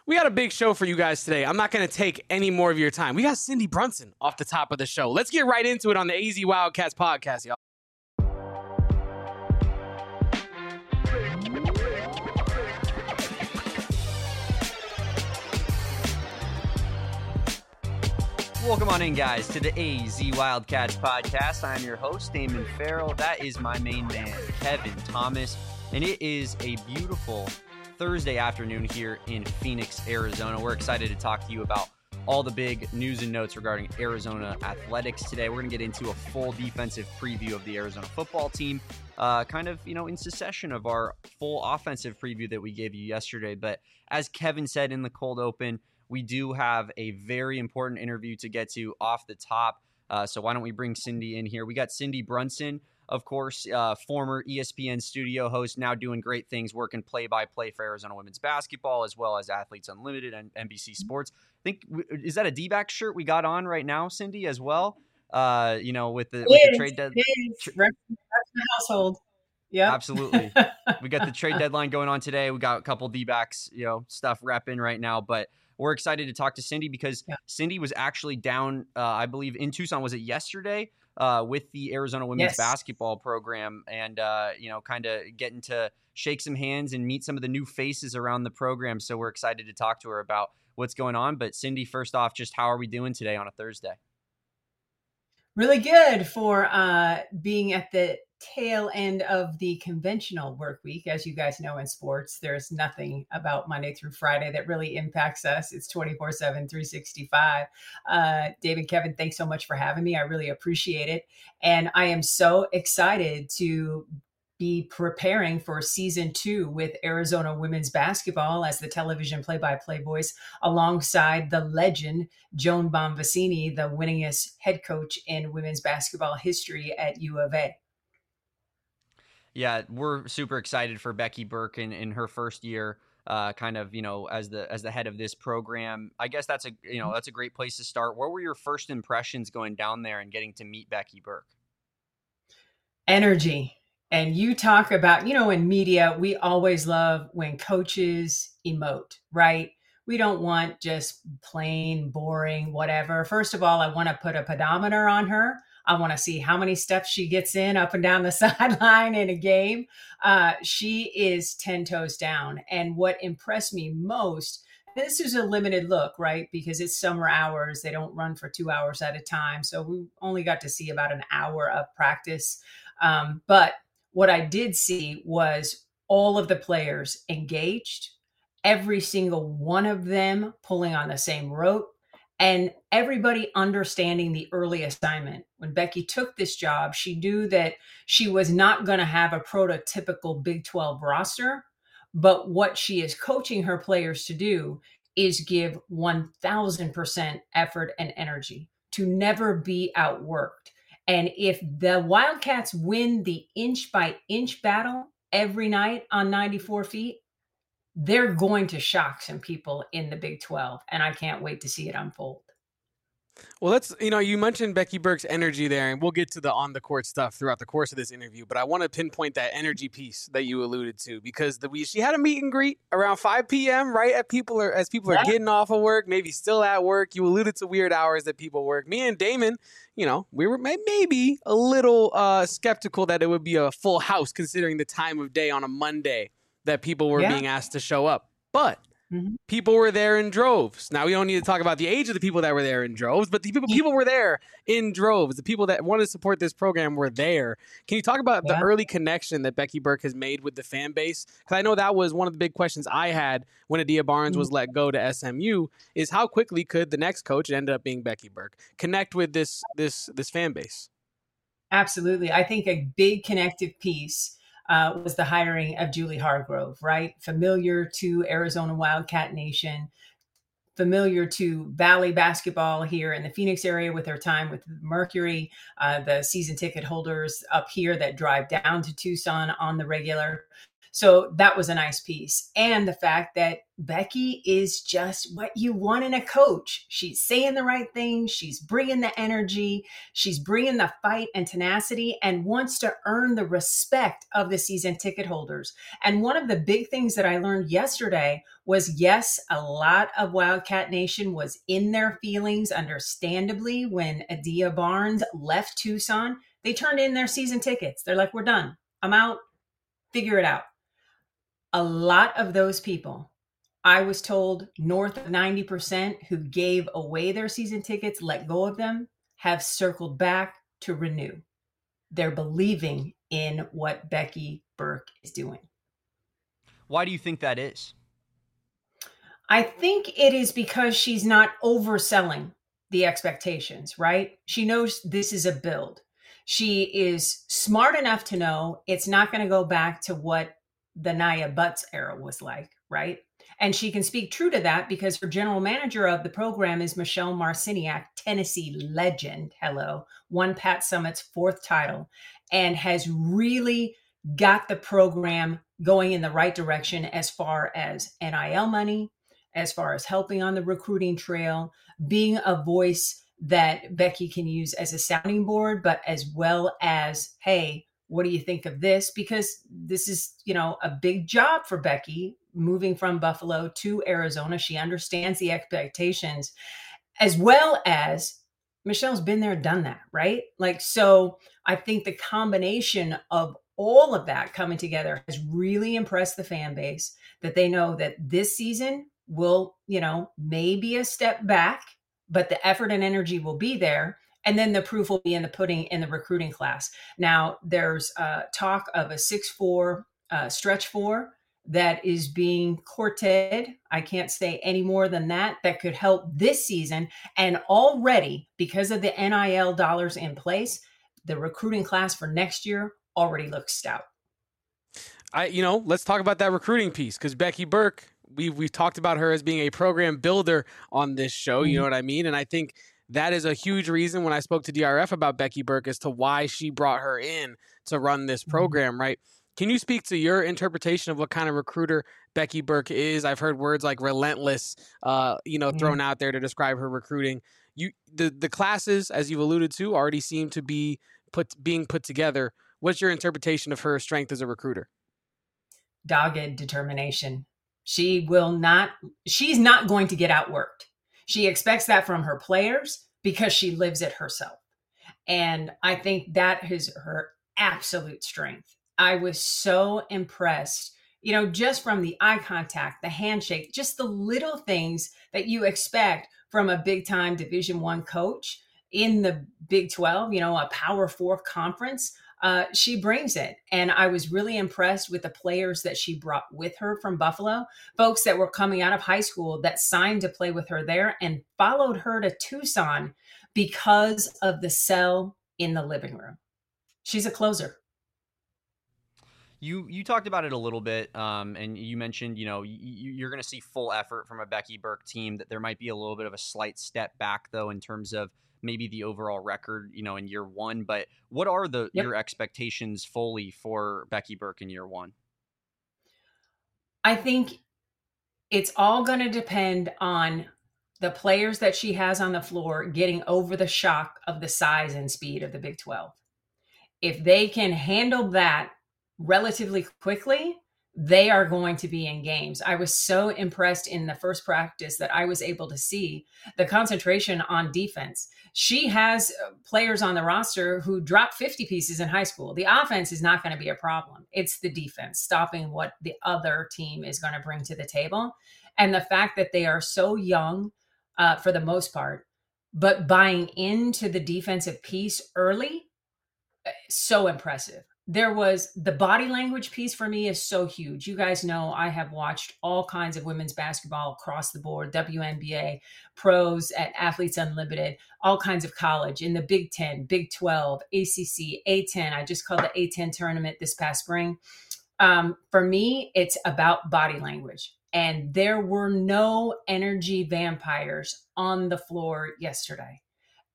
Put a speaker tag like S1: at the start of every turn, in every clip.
S1: We got a big show for you guys today. I'm not going to take any more of your time. We got Cindy Brunson off the top of the show. Let's get right into it on the AZ Wildcats podcast, y'all.
S2: Welcome on in, guys, to the AZ Wildcats podcast. I'm your host, Damon Farrell. That is my main man, Kevin Thomas. And it is a beautiful Thursday afternoon here in Phoenix, Arizona. We're excited to talk to you about all the big news and notes regarding Arizona athletics today. We're going to get into a full defensive preview of the Arizona football team, in succession of our full offensive preview that we gave you yesterday. But as Kevin said in the cold open, we do have a very important interview to get to off the top. So why don't we bring Cindy in here? We got Cindy Brunson, of course, former ESPN studio host, now doing great things, working play-by-play for Arizona women's basketball, as well as Athletes Unlimited and NBC Sports. I think, is that a D-back shirt we got on right now, Cindy, as well? With the trade deadline.
S3: That's the household. Yeah,
S2: absolutely. We got the trade deadline going on today. We got a couple D-backs, stuff repping right now, but we're excited to talk to Cindy because Cindy was actually down, I believe, in Tucson. Was it yesterday with the Arizona women's basketball program and, kind of getting to shake some hands and meet some of the new faces around the program. So we're excited to talk to her about what's going on. But Cindy, first off, just how are we doing today on a Thursday?
S3: Really good for being at the tail end of the conventional work week. As you guys know, in sports, there's nothing about Monday through Friday that really impacts us. It's 24/7, 365. David, Kevin, thanks so much for having me. I really appreciate it. And I am so excited to be preparing for season 2 with Arizona women's basketball as the television play-by-play voice alongside the legend Joan Bonvicini, the winningest head coach in women's basketball history at U of A.
S2: Yeah, we're super excited for Becky Burke in her first year, as the head of this program. I guess that's a great place to start. What were your first impressions going down there and getting to meet Becky Burke?
S3: Energy. And you talk about, in media, we always love when coaches emote, right? We don't want just plain, boring, whatever. First of all, I want to put a pedometer on her. I want to see how many steps she gets in up and down the sideline in a game. She is 10 toes down. And what impressed me most, this is a limited look, right? Because it's summer hours. They don't run for 2 hours at a time. So we only got to see about an hour of practice. But what I did see was all of the players engaged, every single one of them pulling on the same rope, and everybody understanding the early assignment. When Becky took this job, she knew that she was not going to have a prototypical Big 12 roster, but what she is coaching her players to do is give 1,000% effort and energy, to never be outworked. And if the Wildcats win the inch by inch battle every night on 94 feet, they're going to shock some people in the Big 12. And I can't wait to see it unfold.
S1: Well, you mentioned Becky Burke's energy there, and we'll get to the on-the-court stuff throughout the course of this interview, but I want to pinpoint that energy piece that you alluded to, because she had a meet and greet around 5 p.m., right, as people are getting off of work, maybe still at work. You alluded to weird hours that people work. Me and Damon, we were maybe a little skeptical that it would be a full house, considering the time of day on a Monday that people were being asked to show up. But people were there in droves. Now, we don't need to talk about the age of the people that were there in droves, but the people were there in droves. The people that wanted to support this program were there. Can you talk about the early connection that Becky Burke has made with the fan base? Because I know that was one of the big questions I had when Adia Barnes was let go to SMU, is how quickly could the next coach, it ended up being Becky Burke, connect with this fan base?
S3: Absolutely. I think a big connective piece was the hiring of Julie Hargrove, right? Familiar to Arizona Wildcat Nation, familiar to Valley basketball here in the Phoenix area with her time with Mercury, the season ticket holders up here that drive down to Tucson on the regular. So that was a nice piece. And the fact that Becky is just what you want in a coach. She's saying the right things. She's bringing the energy. She's bringing the fight and tenacity and wants to earn the respect of the season ticket holders. And one of the big things that I learned yesterday was, yes, a lot of Wildcat Nation was in their feelings, understandably, when Adia Barnes left Tucson. They turned in their season tickets. They're like, we're done. I'm out. Figure it out. A lot of those people, I was told north of 90% who gave away their season tickets, let go of them, have circled back to renew. They're believing in what Becky Burke is doing.
S2: Why do you think that is?
S3: I think it is because she's not overselling the expectations, right? She knows this is a build. She is smart enough to know it's not going to go back to what the Nia Butts era was like, right? And she can speak true to that because her general manager of the program is Michelle Marciniak, Tennessee legend. Hello, won Pat Summitt's 4th title and has really got the program going in the right direction as far as NIL money, as far as helping on the recruiting trail, being a voice that Becky can use as a sounding board, but as well as, hey, what do you think of this? Because this is, a big job for Becky moving from Buffalo to Arizona. She understands the expectations as well as Michelle's been there, done that, right? So I think the combination of all of that coming together has really impressed the fan base, that they know that this season will, maybe a step back, but the effort and energy will be there. And then the proof will be in the pudding in the recruiting class. Now, there's talk of a 6'4" stretch 4 that is being courted. I can't say any more than that. That could help this season. And already, because of the NIL dollars in place, the recruiting class for next year already looks stout.
S1: Let's talk about that recruiting piece, because Becky Burke, we've talked about her as being a program builder on this show. You know what I mean? And I think that is a huge reason when I spoke to DRF about Becky Burke as to why she brought her in to run this program, right? Can you speak to your interpretation of what kind of recruiter Becky Burke is? I've heard words like relentless, thrown out there to describe her recruiting. The classes, as you've alluded to, already seem to be being put together. What's your interpretation of her strength as a recruiter?
S3: Dogged determination. She's not going to get outworked. She expects that from her players because she lives it herself. And I think that is her absolute strength. I was so impressed, just from the eye contact, the handshake, just the little things that you expect from a big time Division I coach in the Big 12, a Power 4 conference. She brings it. And I was really impressed with the players that she brought with her from Buffalo, folks that were coming out of high school that signed to play with her there and followed her to Tucson because of the sell in the living room. She's a closer.
S2: You talked about it a little bit, and you mentioned, you're going to see full effort from a Becky Burke team, that there might be a little bit of a slight step back, though, in terms of maybe the overall record, in year one. But what are your expectations fully for Becky Burke in year one?
S3: I think it's all going to depend on the players that she has on the floor getting over the shock of the size and speed of the Big 12. If they can handle that relatively quickly, they are going to be in games. I was so impressed in the first practice that I was able to see the concentration on defense. She has players on the roster who dropped 50 pieces in high school. The offense is not going to be a problem. It's the defense, stopping what the other team is going to bring to the table. And the fact that they are so young for the most part, but buying into the defensive piece early, so impressive. There was the body language piece for me is so huge. You guys know I have watched all kinds of women's basketball across the board, WNBA, pros at Athletes Unlimited, all kinds of college in the Big 10, Big 12, ACC, A10. I just called the A10 tournament this past spring. For me, it's about body language. And there were no energy vampires on the floor yesterday.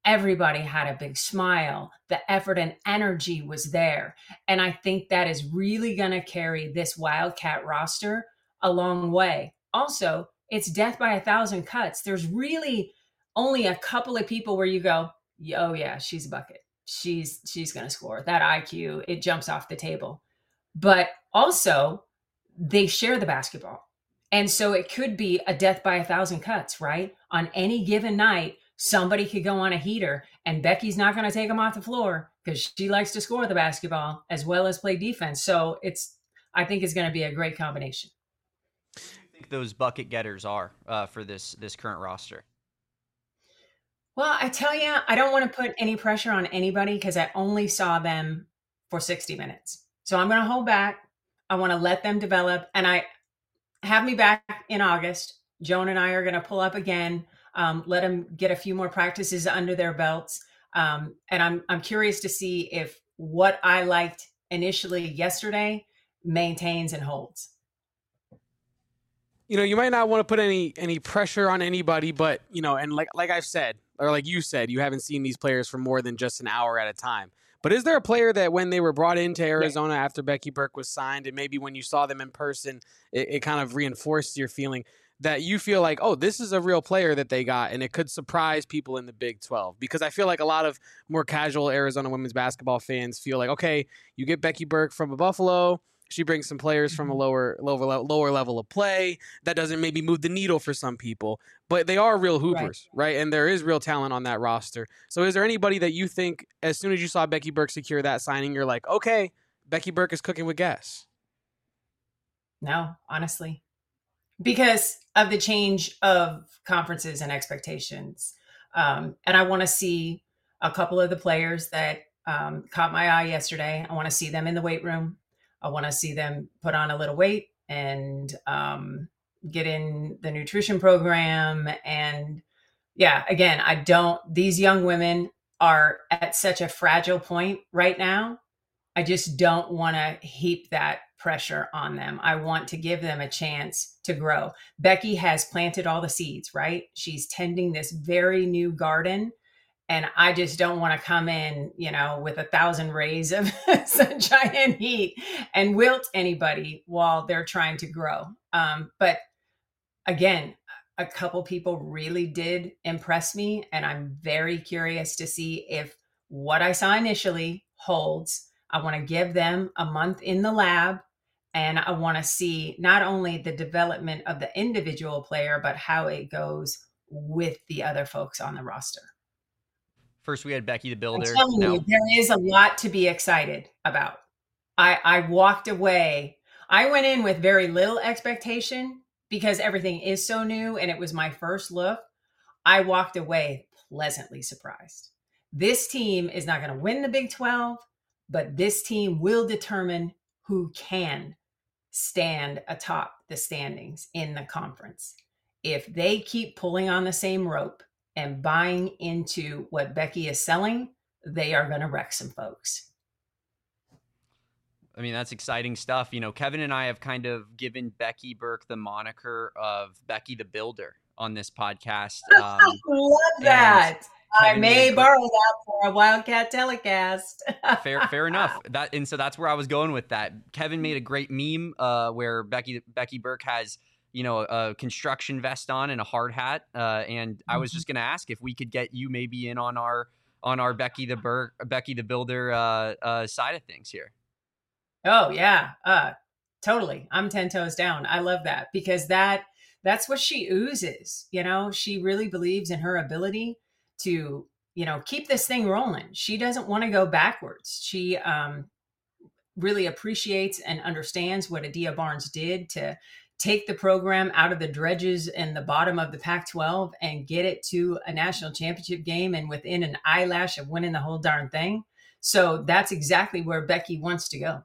S3: everybody had a big smile. The effort and energy was there. And I think that is really going to carry this Wildcat roster a long way. Also, it's death by 1,000 cuts. There's really only a couple of people where you go, oh yeah, she's a bucket. She's going to score. That IQ, it jumps off the table. But also, they share the basketball. And so it could be a death by 1,000 cuts, right? On any given night, somebody could go on a heater, and Becky's not going to take them off the floor because she likes to score the basketball as well as play defense. So I think it's going to be a great combination.
S2: Who do you think those bucket getters are for this current roster?
S3: Well, I tell you, I don't want to put any pressure on anybody because I only saw them for 60 minutes. So I'm going to hold back. I want to let them develop. And I have me back in August. Joan and I are going to pull up again, let them get a few more practices under their belts. And I'm curious to see if what I liked initially yesterday maintains and holds.
S1: You might not want to put any pressure on anybody, but and like I've said, or like you said, you haven't seen these players for more than just an hour at a time. But is there a player that when they were brought into Arizona after Becky Burke was signed, and maybe when you saw them in person, it kind of reinforced your feeling that you feel like, oh, this is a real player that they got, and it could surprise people in the Big 12? Because I feel like a lot of more casual Arizona women's basketball fans feel like, okay, you get Becky Burke from a Buffalo. She brings some players from a lower level of play. That doesn't maybe move the needle for some people, but they are real hoopers, right? And there is real talent on that roster. So is there anybody that you think, as soon as you saw Becky Burke secure that signing, you're like, okay, Becky Burke is cooking with gas?
S3: No, honestly, because of the change of conferences and expectations. And I want to see a couple of the players that caught my eye yesterday. I want to see them in the weight room. I want to see them put on a little weight and get in the nutrition program. And yeah, again, these young women are at such a fragile point right now. I just don't want to heap that pressure on them. I want to give them a chance to grow. Becky has planted all the seeds, right? She's tending this very new garden. And I just don't want to come in, with 1,000 rays of sunshine and heat and wilt anybody while they're trying to grow. But again, a couple people really did impress me. And I'm very curious to see if what I saw initially holds. I want to give them a month in the lab. And I want to see not only the development of the individual player, but how it goes with the other folks on the roster.
S2: First, we had Becky the Builder.
S3: I'm telling you, there is a lot to be excited about. I walked away. I went in with very little expectation because everything is so new and it was my first look. I walked away pleasantly surprised. This team is not going to win the Big 12, but this team will determine who can stand atop the standings in the conference. If they keep pulling on the same rope and buying into what Becky is selling, they are going to wreck some folks.
S2: I mean, that's exciting stuff. Kevin and I have kind of given Becky Burke the moniker of Becky the Builder on this podcast.
S3: I love that. I may borrow that for a Wildcat telecast.
S2: Fair enough. So that's where I was going with that. Kevin made a great meme where Becky Burke has a construction vest on and a hard hat. And I was just going to ask if we could get you maybe in on our Becky the Builder side of things here.
S3: Oh yeah. Totally. I'm 10 toes down. I love that because that's what she oozes. She really believes in her ability to, keep this thing rolling. She doesn't want to go backwards. She, really appreciates and understands what Adia Barnes did to take the program out of the dredges and the bottom of the Pac-12 and get it to a national championship game and within an eyelash of winning the whole darn thing. So that's exactly where Becky wants to go.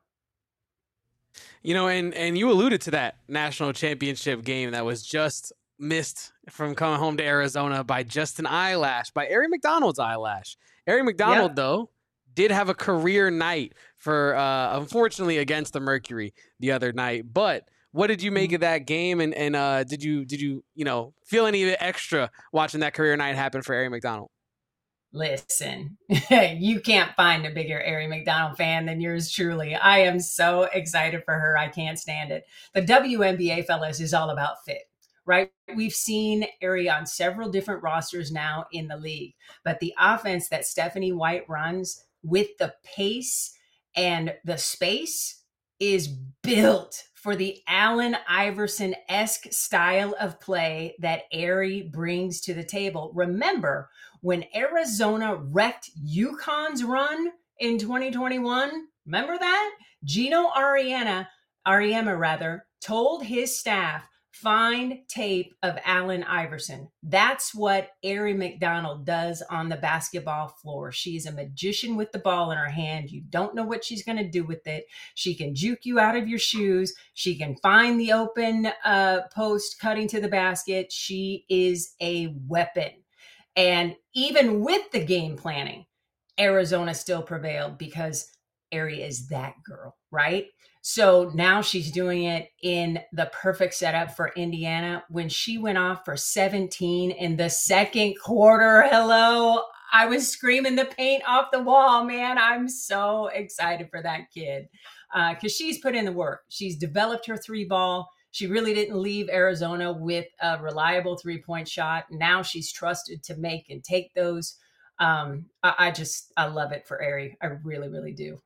S1: And you alluded to that national championship game that was just missed from coming home to Arizona by just an eyelash, by Aari McDonald's eyelash. Aari McDonald, though, did have a career night for, unfortunately, against the Mercury the other night. But what did you make of that game? And did you feel any extra watching that career night happen for Aari McDonald?
S3: Listen, you can't find a bigger Aerie McDonald fan than yours truly. I am so excited for her. I can't stand it. The WNBA, fellas, is all about fit, right? We've seen Aerie on several different rosters now in the league, but the offense that Stephanie White runs with the pace and the space is built for the Allen Iverson-esque style of play that Aerie brings to the table. Remember, when Arizona wrecked UConn's run in 2021, remember that? Gino Auriemma told his staff, find tape of Allen Iverson. That's what Aerie McDonald does on the basketball floor. She's a magician with the ball in her hand. You don't know what she's going to do with it. She can juke you out of your shoes. She can find the open post cutting to the basket. She is a weapon. And even with the game planning, Arizona still prevailed because Aerie is that girl, right? So now she's doing it in the perfect setup for Indiana. When she went off for 17 in the second quarter, hello, I was screaming the paint off the wall, man. I'm so excited for that kid because she's put in the work. She's developed her three ball. She really didn't leave Arizona with a reliable three-point shot. Now she's trusted to make and take those. I love it for Aerie. I really, really do.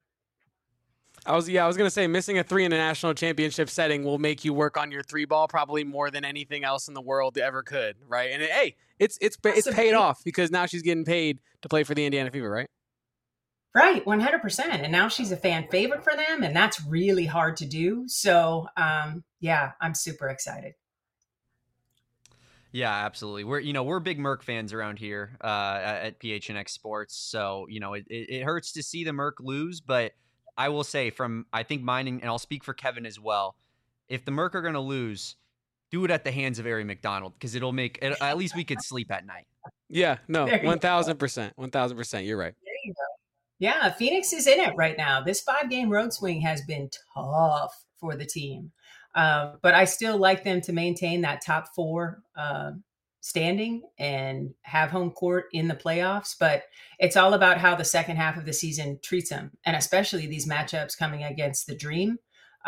S1: I was going to say missing a three in a national championship setting will make you work on your three ball probably more than anything else in the world ever could, right? And it's paid off because now she's getting paid to play for the Indiana Fever, right?
S3: Right, 100%. And now she's a fan favorite for them, and that's really hard to do. So, yeah, I'm super excited.
S2: Yeah, absolutely. We're big Merc fans around here at PHNX Sports. So, it hurts to see the Merc lose, but I will say I think mine, and I'll speak for Kevin as well, if the Merc are going to lose, do it at the hands of Aerie McDonald because it'll make it, at least we could sleep at night.
S1: Yeah, no, 1,000%. 1,000%. You're right.
S3: There you go. Yeah, Phoenix is in it right now. This 5-game road swing has been tough for the team. But I still like them to maintain that top 4 standing and have home court in the playoffs. But it's all about how the second half of the season treats them, and especially these matchups coming against the Dream,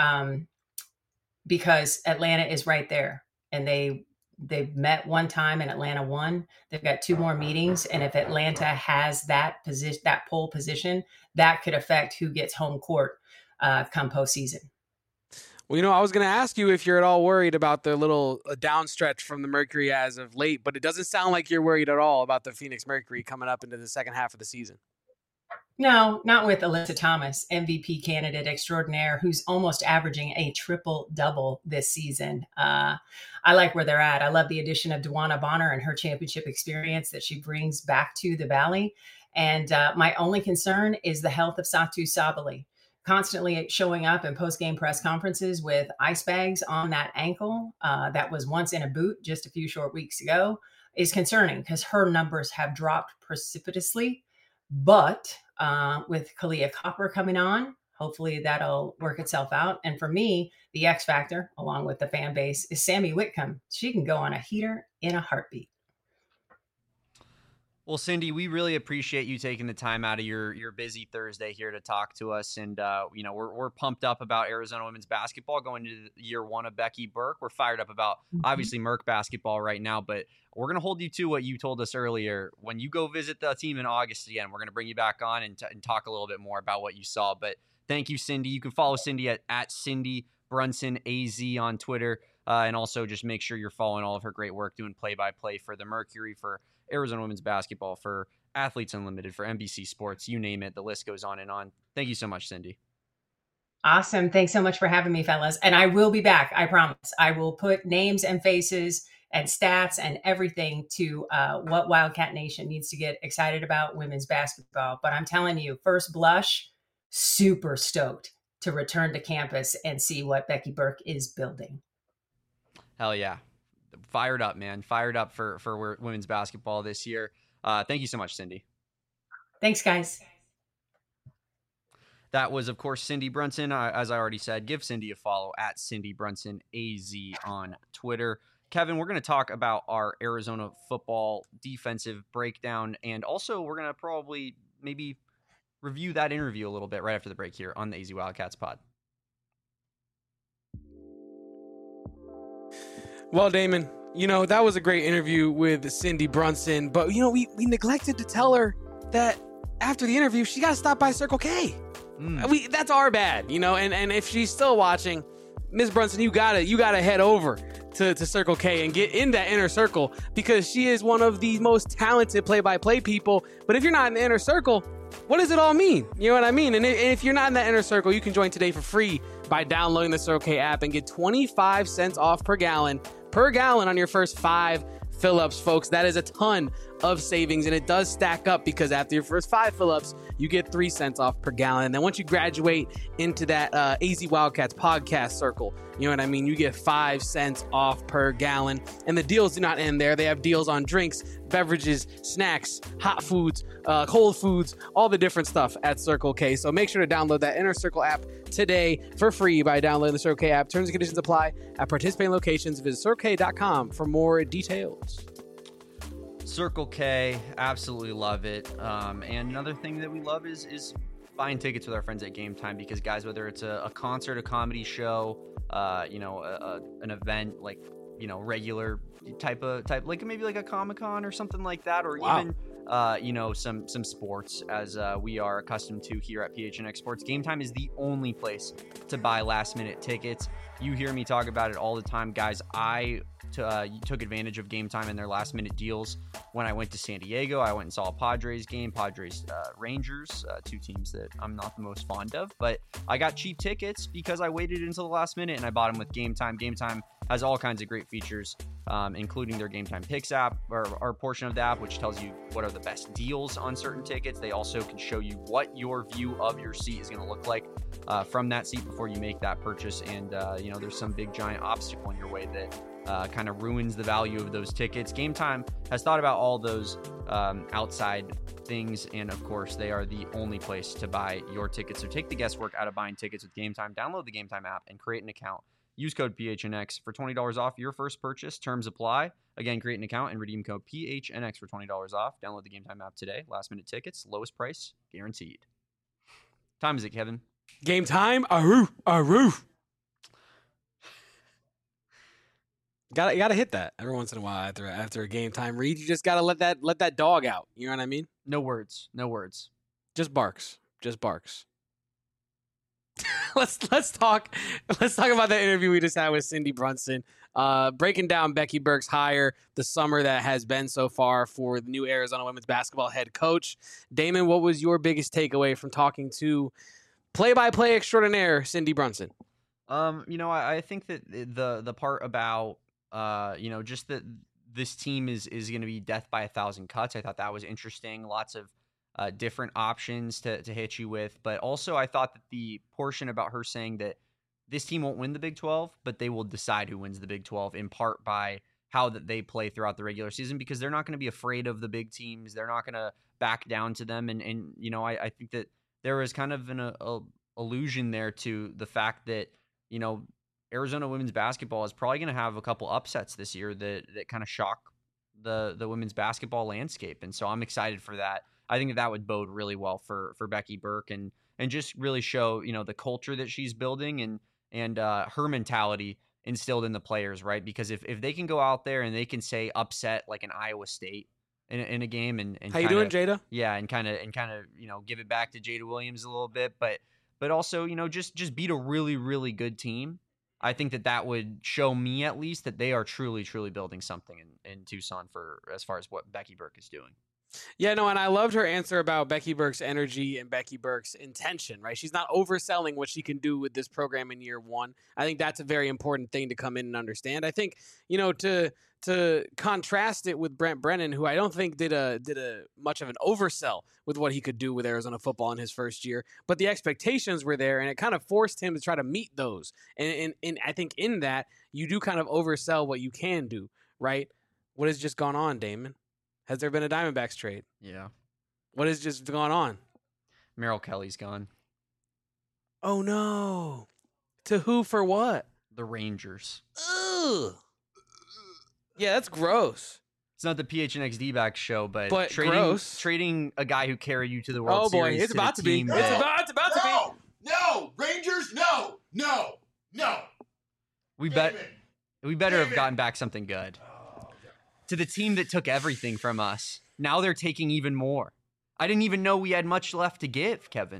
S3: because Atlanta is right there, and they've met one time and Atlanta won. They've got 2 more meetings. And if Atlanta has that position, that pole position, that could affect who gets home court come postseason.
S1: Well, I was going to ask you if you're at all worried about the little downstretch from the Mercury as of late, but it doesn't sound like you're worried at all about the Phoenix Mercury coming up into the second half of the season.
S3: No, not with Alyssa Thomas, MVP candidate extraordinaire, who's almost averaging a triple-double this season. I like where they're at. I love the addition of DeWanna Bonner and her championship experience that she brings back to the Valley. And my only concern is the health of Satou Sabally. Constantly showing up in post-game press conferences with ice bags on that ankle that was once in a boot just a few short weeks ago is concerning because her numbers have dropped precipitously. But with Kahleah Copper coming on, hopefully that'll work itself out. And for me, the X factor, along with the fan base, is Sammy Whitcomb. She can go on a heater in a heartbeat.
S2: Well, Cindy, we really appreciate you taking the time out of your busy Thursday here to talk to us. And, we're pumped up about Arizona women's basketball going into year 1 of Becky Burke. We're fired up about, obviously, Merc basketball right now. But we're going to hold you to what you told us earlier. When you go visit the team in August again, we're going to bring you back on and talk a little bit more about what you saw. But thank you, Cindy. You can follow Cindy at Cindy Brunson AZ on Twitter. And also just make sure you're following all of her great work doing play-by-play for the Mercury, for Arizona women's basketball, for Athletes Unlimited, for NBC Sports, you name it. The list goes on and on. Thank you so much, Cindy.
S3: Awesome. Thanks so much for having me, fellas. And I will be back. I promise. I will put names and faces and stats and everything to what Wildcat Nation needs to get excited about women's basketball. But I'm telling you, first blush, super stoked to return to campus and see what Becky Burke is building.
S2: Hell yeah. Fired up, man. Fired up for women's basketball this year. Thank you so much, Cindy.
S3: Thanks, guys.
S2: That was, of course, Cindy Brunson. As I already said, give Cindy a follow at Cindy Brunson AZ on Twitter. Kevin, we're going to talk about our Arizona football defensive breakdown, and also we're going to probably maybe review that interview a little bit right after the break here on the AZ Wildcats pod.
S1: Well, Damon, that was a great interview with Cindy Brunson, but, we neglected to tell her that after the interview, she got to stop by Circle K. That's our bad, and if she's still watching, Ms. Brunson, you gotta head over to Circle K and get in that inner circle, because she is one of the most talented play-by-play people. But if you're not in the inner circle, what does it all mean? You know what I mean? And if you're not in that inner circle, you can join today for free by downloading the Circle K app and get 25 cents off per gallon on your first 5 fill-ups, folks. That is a ton of savings, and it does stack up, because after your first 5 fill-ups, you get 3 cents off per gallon. And then once you graduate into that AZ Wildcats podcast circle, you know what I mean, you get 5 cents off per gallon. And the deals do not end there. They have deals on drinks, beverages, snacks, hot foods, cold foods, all the different stuff at Circle K. So make sure to download that Inner Circle app today for free by downloading the Circle K app. Terms and conditions apply at participating locations. Visit CircleK.com for more details.
S2: Circle K, absolutely love it. And another thing that we love is buying tickets with our friends at Game Time, because, guys, whether it's a concert, a comedy show, an event, like, regular type, like maybe like a Comic-Con or something like that, or even some sports, as we are accustomed to here at PHNX Sports, Game Time is the only place to buy last-minute tickets. You hear me talk about it all the time, guys. I took advantage of Game Time and their last-minute deals when I went to San Diego. I went and saw a Padres game, Rangers, 2 teams that I'm not the most fond of, but I got cheap tickets because I waited until the last minute and I bought them with Game Time. Game Time has all kinds of great features, including their Game Time Picks app, or portion of the app, which tells you what are the best deals on certain tickets. They also can show you what your view of your seat is going to look like from that seat before you make that purchase. And, there's some big giant obstacle in your way that kind of ruins the value of those tickets. Game Time has thought about all those outside things, and of course, they are the only place to buy your tickets. So take the guesswork out of buying tickets with Game Time. Download the Game Time app and create an account. Use code PHNX for $20 off your first purchase. Terms apply. Again, create an account and redeem code PHNX for $20 off. Download the Game Time app today. Last minute tickets, lowest price guaranteed. Time is it, Kevin?
S1: Game time. Aroo, aroo. Gotta hit that every once in a while after a Game Time read. You just gotta let that dog out. You know what I mean?
S2: No words.
S1: Just barks. Let's talk about that interview we just had with Cindy Brunson, breaking down Becky Burke's hire, the summer that has been so far for the new Arizona women's basketball head coach. Damon, what was your biggest takeaway from talking to play-by-play extraordinaire Cindy Brunson?
S2: I think that the part about just that this team is going to be death by 1,000 cuts, I thought that was interesting. Lots of different options to hit you with. But also I thought that the portion about her saying that this team won't win the Big 12, but they will decide who wins the Big 12, in part by how that they play throughout the regular season, because they're not going to be afraid of the big teams. They're not going to back down to them. And I think that there is kind of an allusion there to the fact that, Arizona women's basketball is probably going to have a couple upsets this year that kind of shock the women's basketball landscape. And so I'm excited for that. I think that would bode really well for Becky Burke and just really show, the culture that she's building and her mentality instilled in the players, right? Because if they can go out there and they can say upset like an Iowa State in a game and
S1: how you doing, Jada?
S2: Yeah, and kind of give it back to Jada Williams a little bit, but also just beat a really, really good team. I think that would show me, at least, that they are truly, truly building something in Tucson for as far as what Becky Burke is doing.
S1: Yeah, no, and I loved her answer about Becky Burke's energy and Becky Burke's intention, right? She's not overselling what she can do with this program in year one. I think that's a very important thing to come in and understand. I think, to contrast it with Brent Brennan, who I don't think did a much of an oversell with what he could do with Arizona football in his first year, but the expectations were there, and it kind of forced him to try to meet those. And I think in that, you do kind of oversell what you can do, right? What has just gone on, Damon? Has there been a Diamondbacks trade?
S2: Yeah.
S1: What has just gone on?
S2: Merrill Kelly's gone.
S1: Oh, no. To who for what?
S2: The Rangers.
S1: Ugh. Yeah, that's gross.
S2: It's not the PHNX back show, but
S1: gross.
S2: Trading a guy who carried you to the World Series.
S1: Oh boy, it's about to be.
S4: No.
S1: It's about to be.
S4: No, Rangers, no.
S2: We better have gotten back something good. To the team that took everything from us. Now they're taking even more. I didn't even know we had much left to give, Kevin.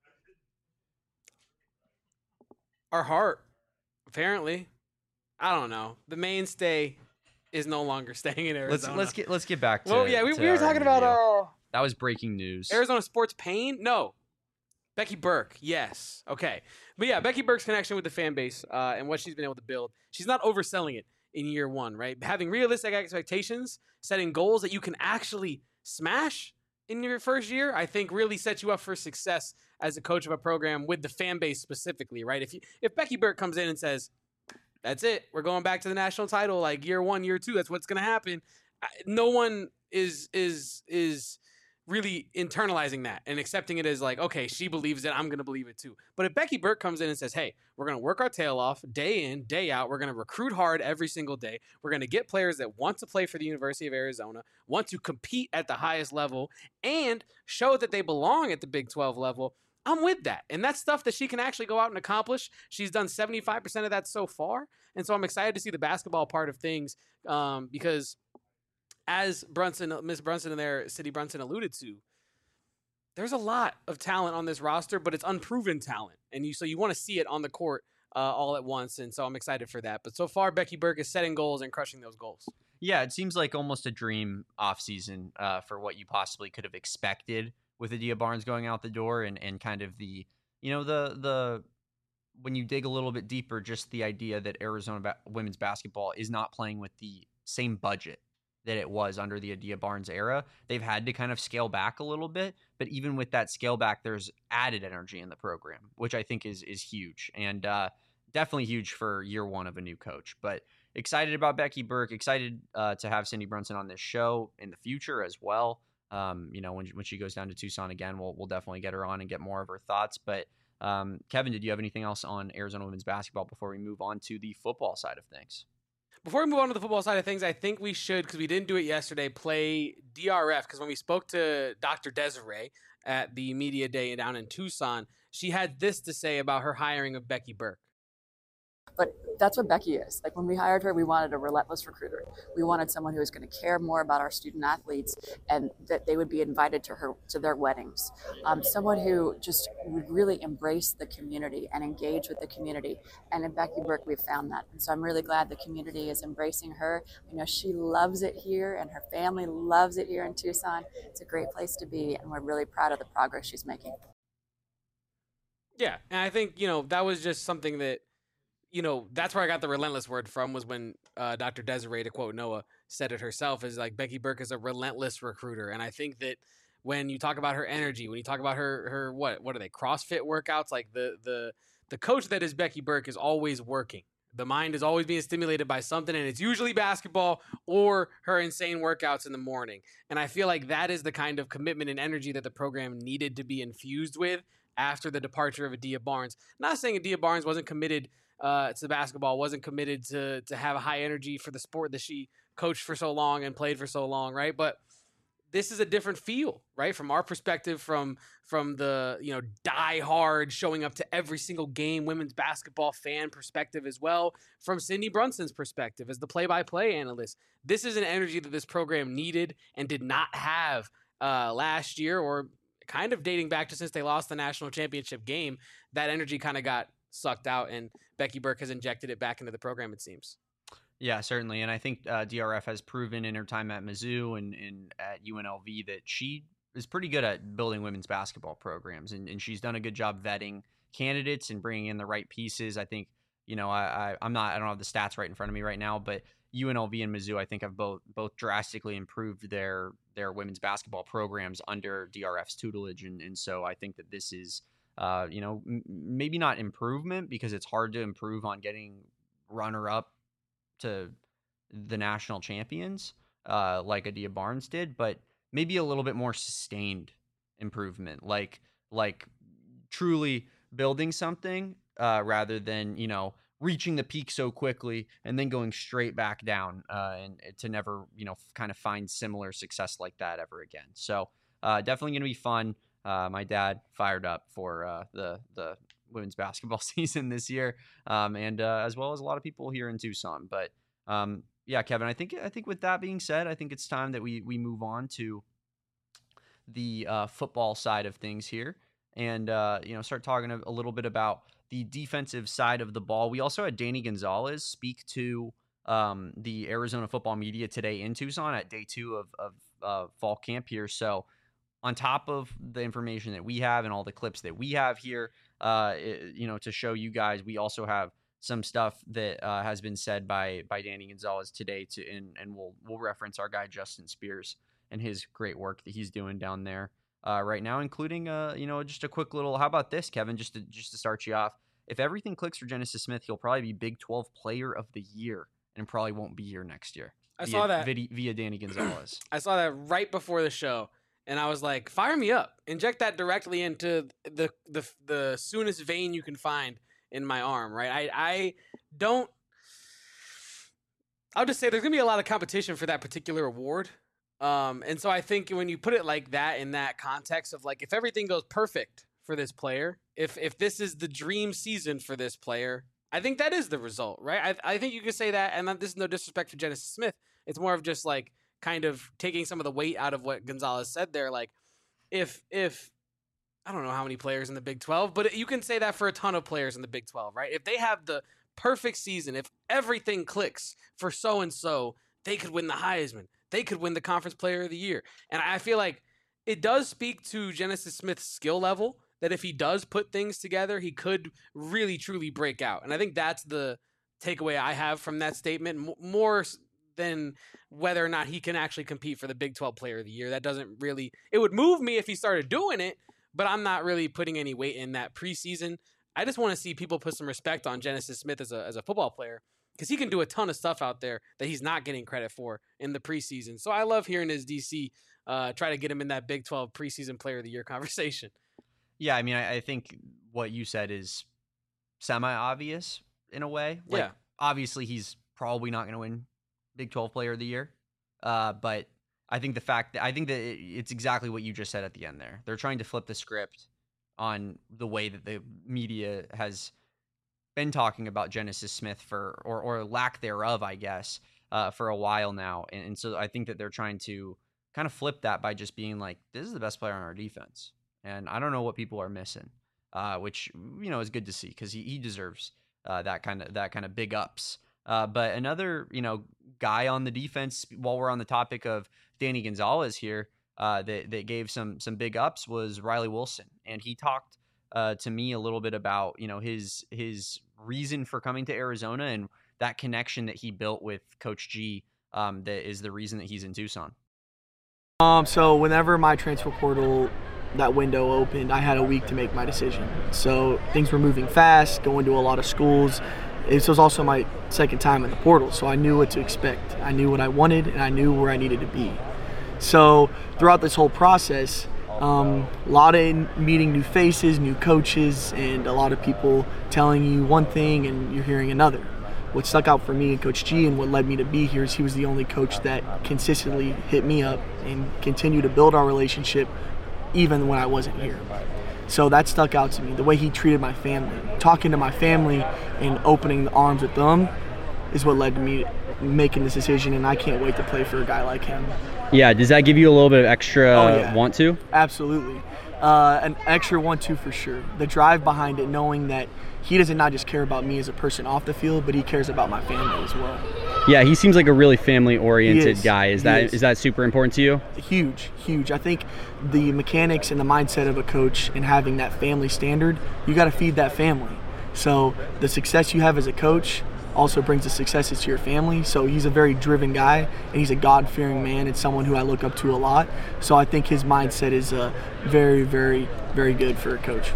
S1: Our heart, apparently. I don't know. The mainstay is no longer staying in Arizona.
S2: Let's get back to.
S1: Well, yeah, we were talking about
S2: that was breaking news.
S1: Arizona sports pain. No, Becky Burke. Yes, okay, but yeah, Becky Burke's connection with the fan base and what she's been able to build. She's not overselling it in year one, right? Having realistic expectations, setting goals that you can actually smash in your first year, I think really sets you up for success as a coach of a program with the fan base specifically, right? If Becky Burke comes in and says, that's it, we're going back to the national title, like year one, year two, that's what's going to happen. No one is really internalizing that and accepting it as like, okay, she believes it, I'm going to believe it too. But if Becky Burke comes in and says, hey, we're going to work our tail off day in, day out, we're going to recruit hard every single day, we're going to get players that want to play for the University of Arizona, want to compete at the highest level, and show that they belong at the Big 12 level, I'm with that. And that's stuff that she can actually go out and accomplish. She's done 75% of that so far. And so I'm excited to see the basketball part of things because as Miss Brunson and there, City Brunson alluded to, there's a lot of talent on this roster, but it's unproven talent. And so you want to see it on the court all at once. And so I'm excited for that. But so far, Becky Burke is setting goals and crushing those goals.
S2: Yeah, it seems like almost a dream offseason for what you possibly could have expected with Adia Barnes going out the door and kind of the when you dig a little bit deeper, just the idea that Arizona women's basketball is not playing with the same budget that it was under the Adia Barnes era. They've had to kind of scale back a little bit, but even with that scale back, there's added energy in the program, which I think is huge and definitely huge for year one of a new coach. But excited about Becky Burke, excited to have Cindy Brunson on this show in the future as well. When she goes down to Tucson again, we'll definitely get her on and get more of her thoughts. But Kevin, did you have anything else on Arizona women's basketball before we move on to the football side of things?
S1: Before we move on to the football side of things, I think we should, because we didn't do it yesterday, play DRF. Because when we spoke to Dr. Desiree at the media day down in Tucson, she had this to say about her hiring of Becky Burke.
S5: But that's what Becky is. Like when we hired her, we wanted a relentless recruiter. We wanted someone who was going to care more about our student athletes and that they would be invited to their weddings. Someone who just would really embrace the community and engage with the community. And in Becky Burke, we've found that. And so I'm really glad the community is embracing her. You know, she loves it here and her family loves it here in Tucson. It's a great place to be. And we're really proud of the progress she's making.
S1: Yeah. And I think, that was just something that, that's where I got the relentless word from was when Dr. Desiree, to quote Noah, said it herself, is like Becky Burke is a relentless recruiter. And I think that when you talk about her energy, when you talk about her what are they, CrossFit workouts, like the coach that is Becky Burke is always working. The mind is always being stimulated by something, and it's usually basketball or her insane workouts in the morning. And I feel like that is the kind of commitment and energy that the program needed to be infused with after the departure of Adia Barnes. Not saying Adia Barnes wasn't committed to basketball, wasn't committed to have a high energy for the sport that she coached for so long and played for so long, right? But this is a different feel, right? From our perspective, from the die hard showing up to every single game women's basketball fan perspective as well. From Cindy Brunson's perspective as the play-by-play analyst, this is an energy that this program needed and did not have last year, or kind of dating back to since they lost the national championship game. That energy kind of got sucked out, and Becky Burke has injected it back into the program, it seems.
S2: Yeah, certainly. And I think DRF has proven in her time at Mizzou and at UNLV that she is pretty good at building women's basketball programs. And she's done a good job vetting candidates and bringing in the right pieces. I think, I don't have the stats right in front of me right now, but UNLV and Mizzou, I think, have both drastically improved their women's basketball programs under DRF's tutelage. And so I think that this is, maybe not improvement, because it's hard to improve on getting runner-up to the national champions like Adia Barnes did, but maybe a little bit more sustained improvement, like truly building something rather than, reaching the peak so quickly and then going straight back down and to never, kind of find similar success like that ever again. So definitely going to be fun. My dad fired up for the women's basketball season this year, and as well as a lot of people here in Tucson. But yeah, Kevin, I think with that being said, I think it's time that we move on to the football side of things here, and start talking a little bit about the defensive side of the ball. We also had Danny Gonzalez speak to the Arizona football media today in Tucson at day 2 of fall camp here. So on top of the information that we have and all the clips that we have here, to show you guys, we also have some stuff that has been said by Danny Gonzalez today and we'll reference our guy Justin Spears and his great work that he's doing down there right now, including just a quick little. How about this, Kevin? Just to start you off, if everything clicks for Genesis Smith, he'll probably be Big 12 Player of the Year and probably won't be here next year.
S1: I saw that
S2: via Danny Gonzalez.
S1: I saw that right before the show, and I was like, "Fire me up! Inject that directly into the soonest vein you can find in my arm." Right? I'll just say there's gonna be a lot of competition for that particular award. And so I think when you put it like that in that context of like, if everything goes perfect for this player, if this is the dream season for this player, I think that is the result, right? I think you could say that, and this is no disrespect to Genesis Smith. It's more of just like kind of taking some of the weight out of what Gonzalez said there. Like if I don't know how many players in the Big 12, but you can say that for a ton of players in the Big 12, right? If they have the perfect season, if everything clicks for so-and-so, they could win the Heisman. They could win the Conference Player of the Year. And I feel like it does speak to Genesis Smith's skill level that if he does put things together, he could really, truly break out. And I think that's the takeaway I have from that statement, more than whether or not he can actually compete for the Big 12 Player of the Year. That doesn't really – it would move me if he started doing it, but I'm not really putting any weight in that preseason. I just want to see people put some respect on Genesis Smith as a football player, because he can do a ton of stuff out there that he's not getting credit for in the preseason. So I love hearing his DC try to get him in that Big 12 preseason Player of the Year conversation.
S2: Yeah, I mean, I think what you said is semi-obvious in a way. Like,
S1: yeah.
S2: Obviously, he's probably not going to win Big 12 Player of the Year. But I think that it's exactly what you just said at the end there. They're trying to flip the script on the way that the media has been talking about Genesis Smith or lack thereof, I guess, for a while now. And so I think that they're trying to kind of flip that by just being like, this is the best player on our defense. And I don't know what people are missing, which, is good to see, because he deserves that kind of big ups. But another, guy on the defense, while we're on the topic of Danny Gonzalez here, that gave some big ups was Riley Wilson. And he talked to me a little bit about, his reason for coming to Arizona and that connection that he built with Coach G, that is the reason that he's in Tucson.
S6: So whenever my transfer portal, that window opened, I had a week to make my decision. So things were moving fast, going to a lot of schools. This was also my second time in the portal, so I knew what to expect. I knew what I wanted, and I knew where I needed to be. So throughout this whole process, a lot of meeting new faces, new coaches, and a lot of people telling you one thing and you're hearing another. What stuck out for me and Coach G and what led me to be here is he was the only coach that consistently hit me up and continued to build our relationship even when I wasn't here. So that stuck out to me, the way he treated my family. Talking to my family and opening the arms with them is what led to me making this decision, and I can't wait to play for a guy like him.
S2: Yeah, does that give you a little bit of extra want to?
S6: Absolutely. An extra 1-2 for sure. The drive behind it, knowing that he doesn't not just care about me as a person off the field, but he cares about my family as well.
S2: Yeah, he seems like a really family-oriented guy. Is that super important to you? Huge. I think the mechanics and the mindset of a coach and having that family standard, you got to feed that family. So the success you have as a coach also brings the successes to your family. So he's a very driven guy, and he's a God-fearing man and someone who I look up to a lot. So I think his mindset is very, very, very good for a coach.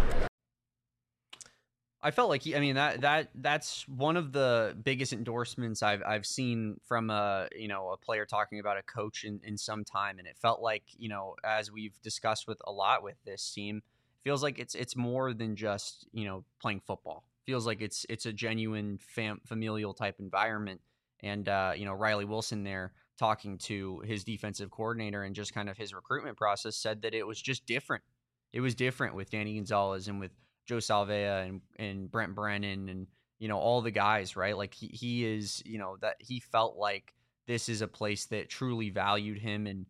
S2: I felt like that's one of the biggest endorsements I've seen from a player talking about a coach in some time, and it felt like, as we've discussed with a lot with this team, it feels like it's more than just playing football feels like it's a genuine familial type environment. And, Riley Wilson there talking to his defensive coordinator and just kind of his recruitment process said that it was just different. It was different with Danny Gonzalez and with Joe Salvea and Brent Brennan and, all the guys, right? Like he is, that he felt like this is a place that truly valued him and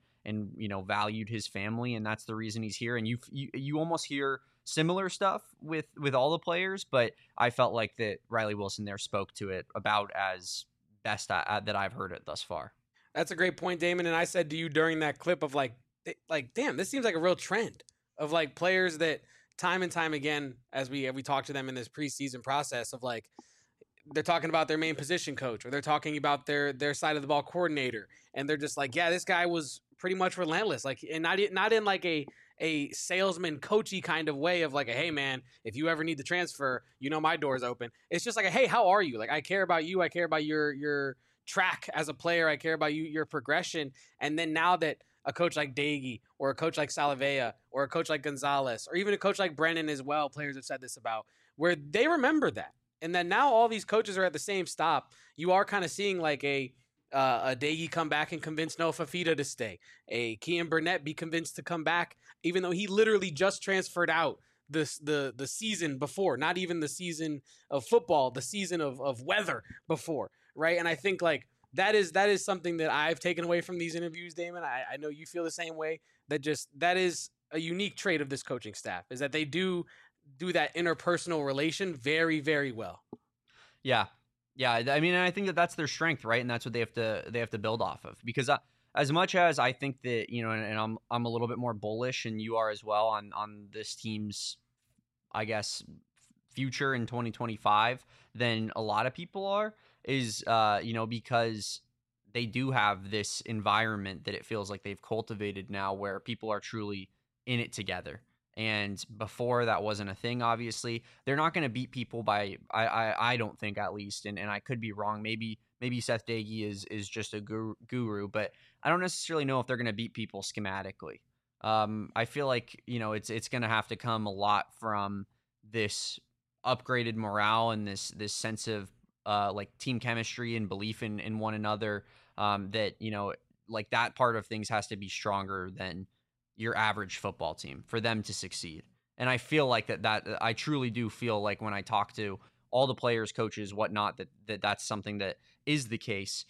S2: valued his family. And that's the reason he's here. And you almost hear similar stuff with all the players, but I felt like that Riley Wilson there spoke to it about as best that I've heard it thus far.
S1: That's a great point, Damon. And I said to you during that clip of like, damn, this seems like a real trend of like players that time and time again, as we talk to them in this preseason process of like, they're talking about their main position coach or they're talking about their side of the ball coordinator. And they're just like, yeah, this guy was pretty much relentless. Like, and not in like a salesman coachy kind of way of like, hey man, if you ever need to transfer, my door's open. It's just like, hey, how are you? Like, I care about you. I care about your track as a player. I care about your progression. And then now that a coach like Daigie or a coach like Salavea or a coach like Gonzalez or even a coach like Brennan as well, players have said this about, where they remember that. And then now all these coaches are at the same stop. You are kind of seeing like a Daigie come back and convince Noah Fafita to stay. A Kean Burnett be convinced to come back, even though he literally just transferred out the season before, not even the season of football, the season of weather before, right? And I think like that is something that I've taken away from these interviews, Damon. I know you feel the same way. That is a unique trait of this coaching staff, is that they do that interpersonal relation very, very well. Yeah. I mean, I think that's their strength, right? And that's what they have to build off of. Because as much as I think that, and I'm a little bit more bullish, and you are as well on this team's, I guess, future in 2025 than a lot of people are, is because they do have this environment that it feels like they've cultivated now, where people are truly in it together. And before that wasn't a thing, obviously. They're not going to beat people by, I don't think, at least, and I could be wrong. Maybe Seth Daigie is just a guru, but I don't necessarily know if they're going to beat people schematically. I feel like, it's going to have to come a lot from this upgraded morale and this sense of like team chemistry and belief in one another, that, like that part of things has to be stronger than your average football team for them to succeed. And I feel like that I truly do feel like when I talk to all the players, coaches, whatnot, that's something that is the case.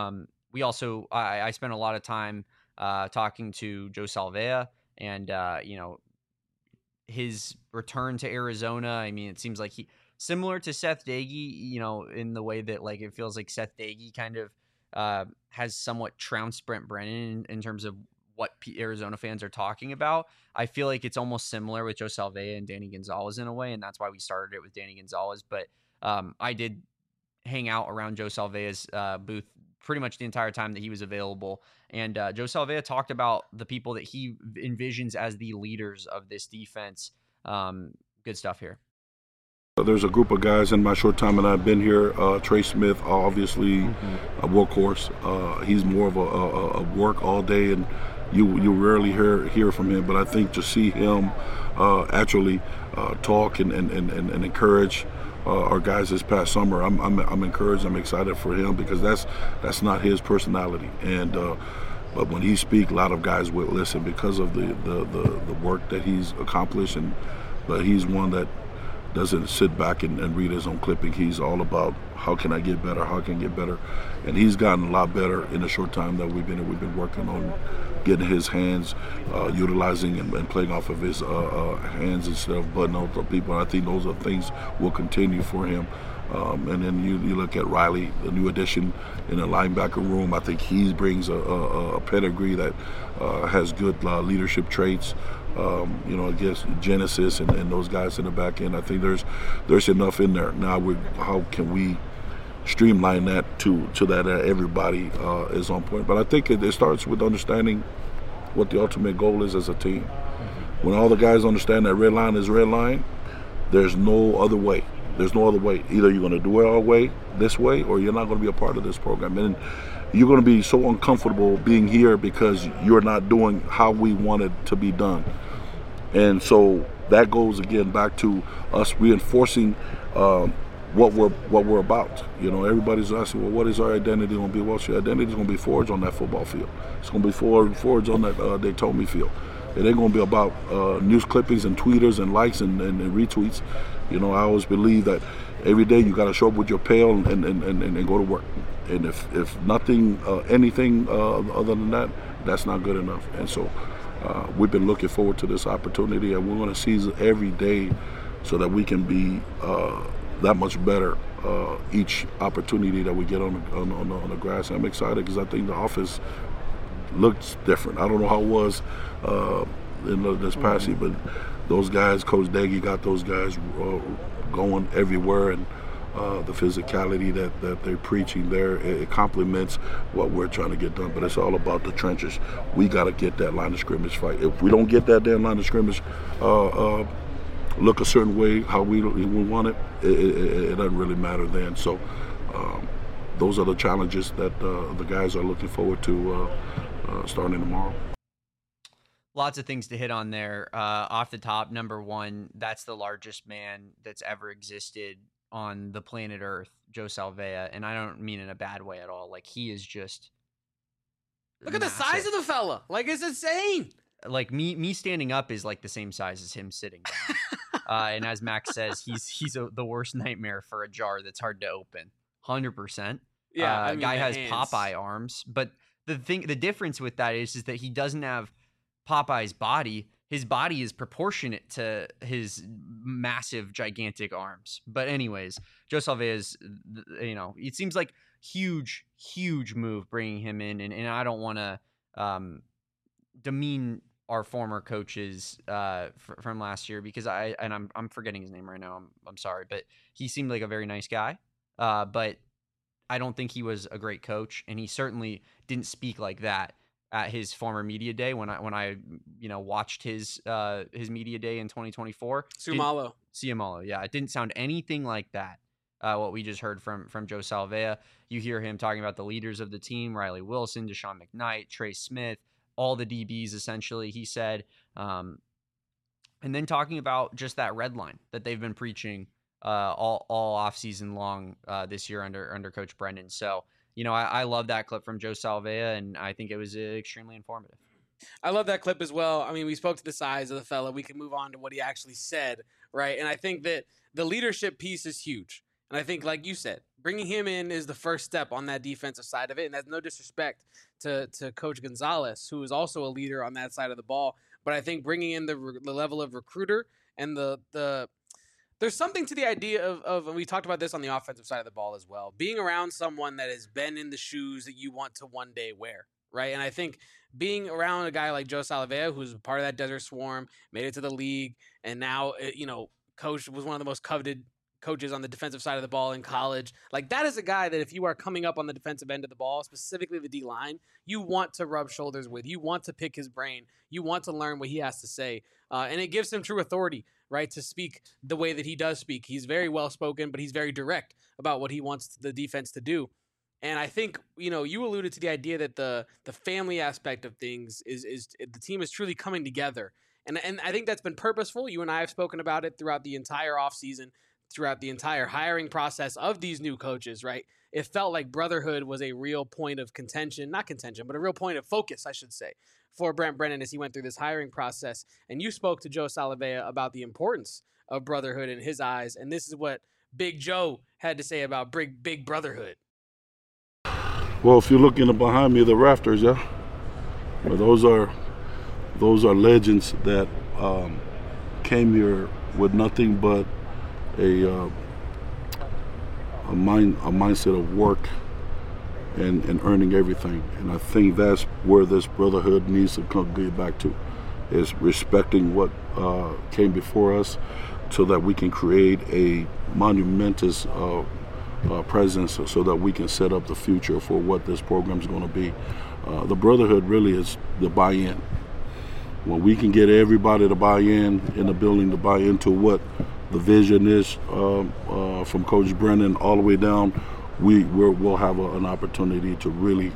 S1: We also, I spent a lot of time talking to Joe Salvea and, his return to Arizona. I mean, it seems like similar to Seth Daigie, in the way that like, it feels like Seth Daigie kind of has somewhat trounced Brent Brennan in terms of what Arizona fans are talking about. I feel like it's almost similar with Joe Salvea and Danny Gonzalez in a way, and that's why we started it with Danny Gonzalez. But I did hang out around Joe Salvea's booth pretty much the entire time that he was available. And Joe Salvea talked about the people that he envisions as the leaders of this defense. Good stuff here.
S7: There's a group of guys in my short time that I've been here. Trey Smith, obviously a workhorse. He's more of a work all day, and you rarely hear from him. But I think to see him actually talk and encourage our guys this past summer, I'm encouraged. I'm excited for him, because that's not his personality. And but when he speaks, a lot of guys will listen because of the work that he's accomplished. But he's one that doesn't sit back and read his own clipping. He's all about how can I get better, how can I get better. And he's gotten a lot better in the short time that we've been working on getting his hands, utilizing and playing off of his hands instead of butting out the people. And I think those are things will continue for him. And then you look at Riley, the new addition in the linebacker room. I think he brings a pedigree that has good leadership traits. Against Genesis and those guys in the back end. I think there's enough in there. Now, how can we streamline that to that everybody is on point? But I think it starts with understanding what the ultimate goal is as a team. When all the guys understand that red line is red line, there's no other way. There's no other way. Either you're going to do it our way, this way, or you're not going to be a part of this program. And you're going to be so uncomfortable being here because you're not doing how we want it to be done. And so that goes again back to us reinforcing what we're about. You know, everybody's asking, well, what is our identity going to be? Well, your identity is going to be forged on that football field. It's going to be forged on that Daytona field. It ain't going to be about news clippings and tweeters and likes and retweets. You know, I always believe that every day you got to show up with your pail and go to work. And if nothing, anything other than that, that's not good enough. And so we've been looking forward to this opportunity, and we're going to seize it every day so that we can be that much better each opportunity that we get on the grass. And I'm excited because I think the offense looks different. I don't know how it was in this past year, but those guys, Coach Daggy got those guys going everywhere, and the physicality that they're preaching there, it complements what we're trying to get done. But it's all about the trenches. We got to get that line of scrimmage fight. If we don't get that damn line of scrimmage look a certain way, how we want it, it doesn't really matter then. So those are the challenges that the guys are looking forward to starting tomorrow.
S2: Lots of things to hit on there. Off the top, number one, that's the largest man that's ever existed on the planet Earth, Joe Salvea. And I don't mean in a bad way at all. Like, he is just
S1: Look at the size of the fella. Like, it's insane.
S2: Like, me standing up is like the same size as him sitting down. And as Max says, he's the worst nightmare for a jar that's hard to open. 100%.
S1: Yeah, I mean,
S2: guy has
S1: hands.
S2: Popeye arms, but the difference with that is that he doesn't have Popeye's body. His body is proportionate to his massive, gigantic arms. But anyways, Joe Salvea is, it seems like huge move bringing him in, and I don't want to demean our former coaches from last year because I'm forgetting his name right now. I'm sorry, but he seemed like a very nice guy. But I don't think he was a great coach, and he certainly didn't speak like that at his former media day when I watched his media day in 2024. Ciamalo, yeah, it didn't sound anything like that. What we just heard from Joe Salvea. You hear him talking about the leaders of the team: Riley Wilson, Deshaun McKnight, Trey Smith, all the DBs essentially. He said, and then talking about just that red line that they've been preaching all off season long this year under Coach Brendan. So, I love that clip from Joe Salvea, and I think it was extremely informative.
S1: I love that clip as well. I mean, we spoke to the size of the fella. We can move on to what he actually said, right? And I think that the leadership piece is huge. And I think, like you said, bringing him in is the first step on that defensive side of it. And that's no disrespect to Coach Gonzalez, who is also a leader on that side of the ball. But I think bringing in the level of recruiter and there's something to the idea of, and we talked about this on the offensive side of the ball as well, being around someone that has been in the shoes that you want to one day wear, right? And I think being around a guy like Joe Salvea, who's part of that Desert Swarm, made it to the league, and now, coach was one of the most coveted coaches on the defensive side of the ball in college. Like, that is a guy that if you are coming up on the defensive end of the ball, specifically the D-line, you want to rub shoulders with. You want to pick his brain. You want to learn what he has to say. And it gives him true authority, right, to speak the way that he does speak. He's very well-spoken, but he's very direct about what he wants the defense to do. And I think, you alluded to the idea that the family aspect of things is the team is truly coming together. And I think that's been purposeful. You and I have spoken about it throughout the entire offseason, throughout the entire hiring process of these new coaches, right? It felt like brotherhood was a real point of not contention, but a real point of focus, I should say, for Brent Brennan as he went through this hiring process. And you spoke to Joe Salvea about the importance of brotherhood in his eyes. And this is what Big Joe had to say about big brotherhood.
S7: Well, if you're looking behind me, the rafters, yeah, well, those are legends that came here with nothing but a mindset of work and earning everything. And I think that's where this brotherhood needs to get back to, is respecting what came before us so that we can create a monumentous presence so that we can set up the future for what this program is going to be. The brotherhood really is the buy-in. When we can get everybody to buy in the building, to buy into what the vision is from Coach Brennan all the way down, we'll have an opportunity to really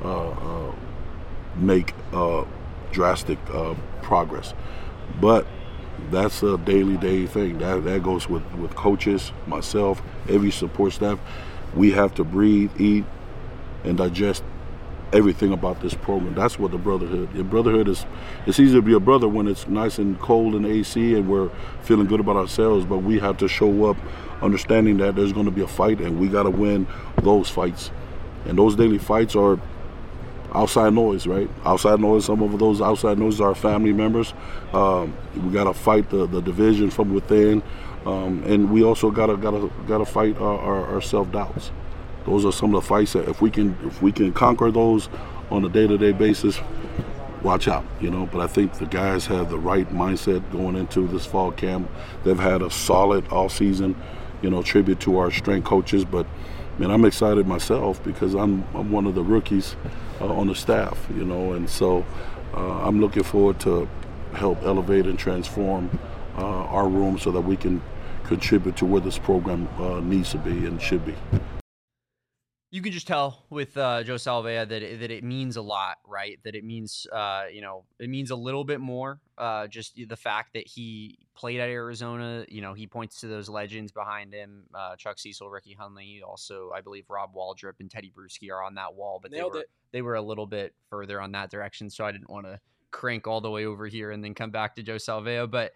S7: make drastic progress. But that's a day thing. That goes with coaches, myself, every support staff. We have to breathe, eat, and digest everything about this program. That's what the brotherhood. The brotherhood is. It's easy to be a brother when it's nice and cold in the AC and we're feeling good about ourselves. But we have to show up, understanding that there's going to be a fight, and we got to win those fights. And those daily fights are outside noise, right? Outside noise. Some of those outside noises are family members. We got to fight the division from within, and we also got to fight our self doubts. Those are some of the fights that if we can conquer those on a day-to-day basis, watch out, But I think the guys have the right mindset going into this fall camp. They've had a solid all season, tribute to our strength coaches. But man, I'm excited myself because I'm one of the rookies on the staff, and so I'm looking forward to help elevate and transform our room so that we can contribute to where this program needs to be and should be.
S2: You can just tell with Joe Salvea that it means a lot, right? That it means, it means a little bit more. Just the fact that he played at Arizona, he points to those legends behind him. Chuck Cecil, Ricky Hundley, also I believe Rob Waldrop and Teddy Bruschi are on that wall, but they were a little bit further on that direction, so I didn't want to crank all the way over here and then come back to Joe Salvea, but.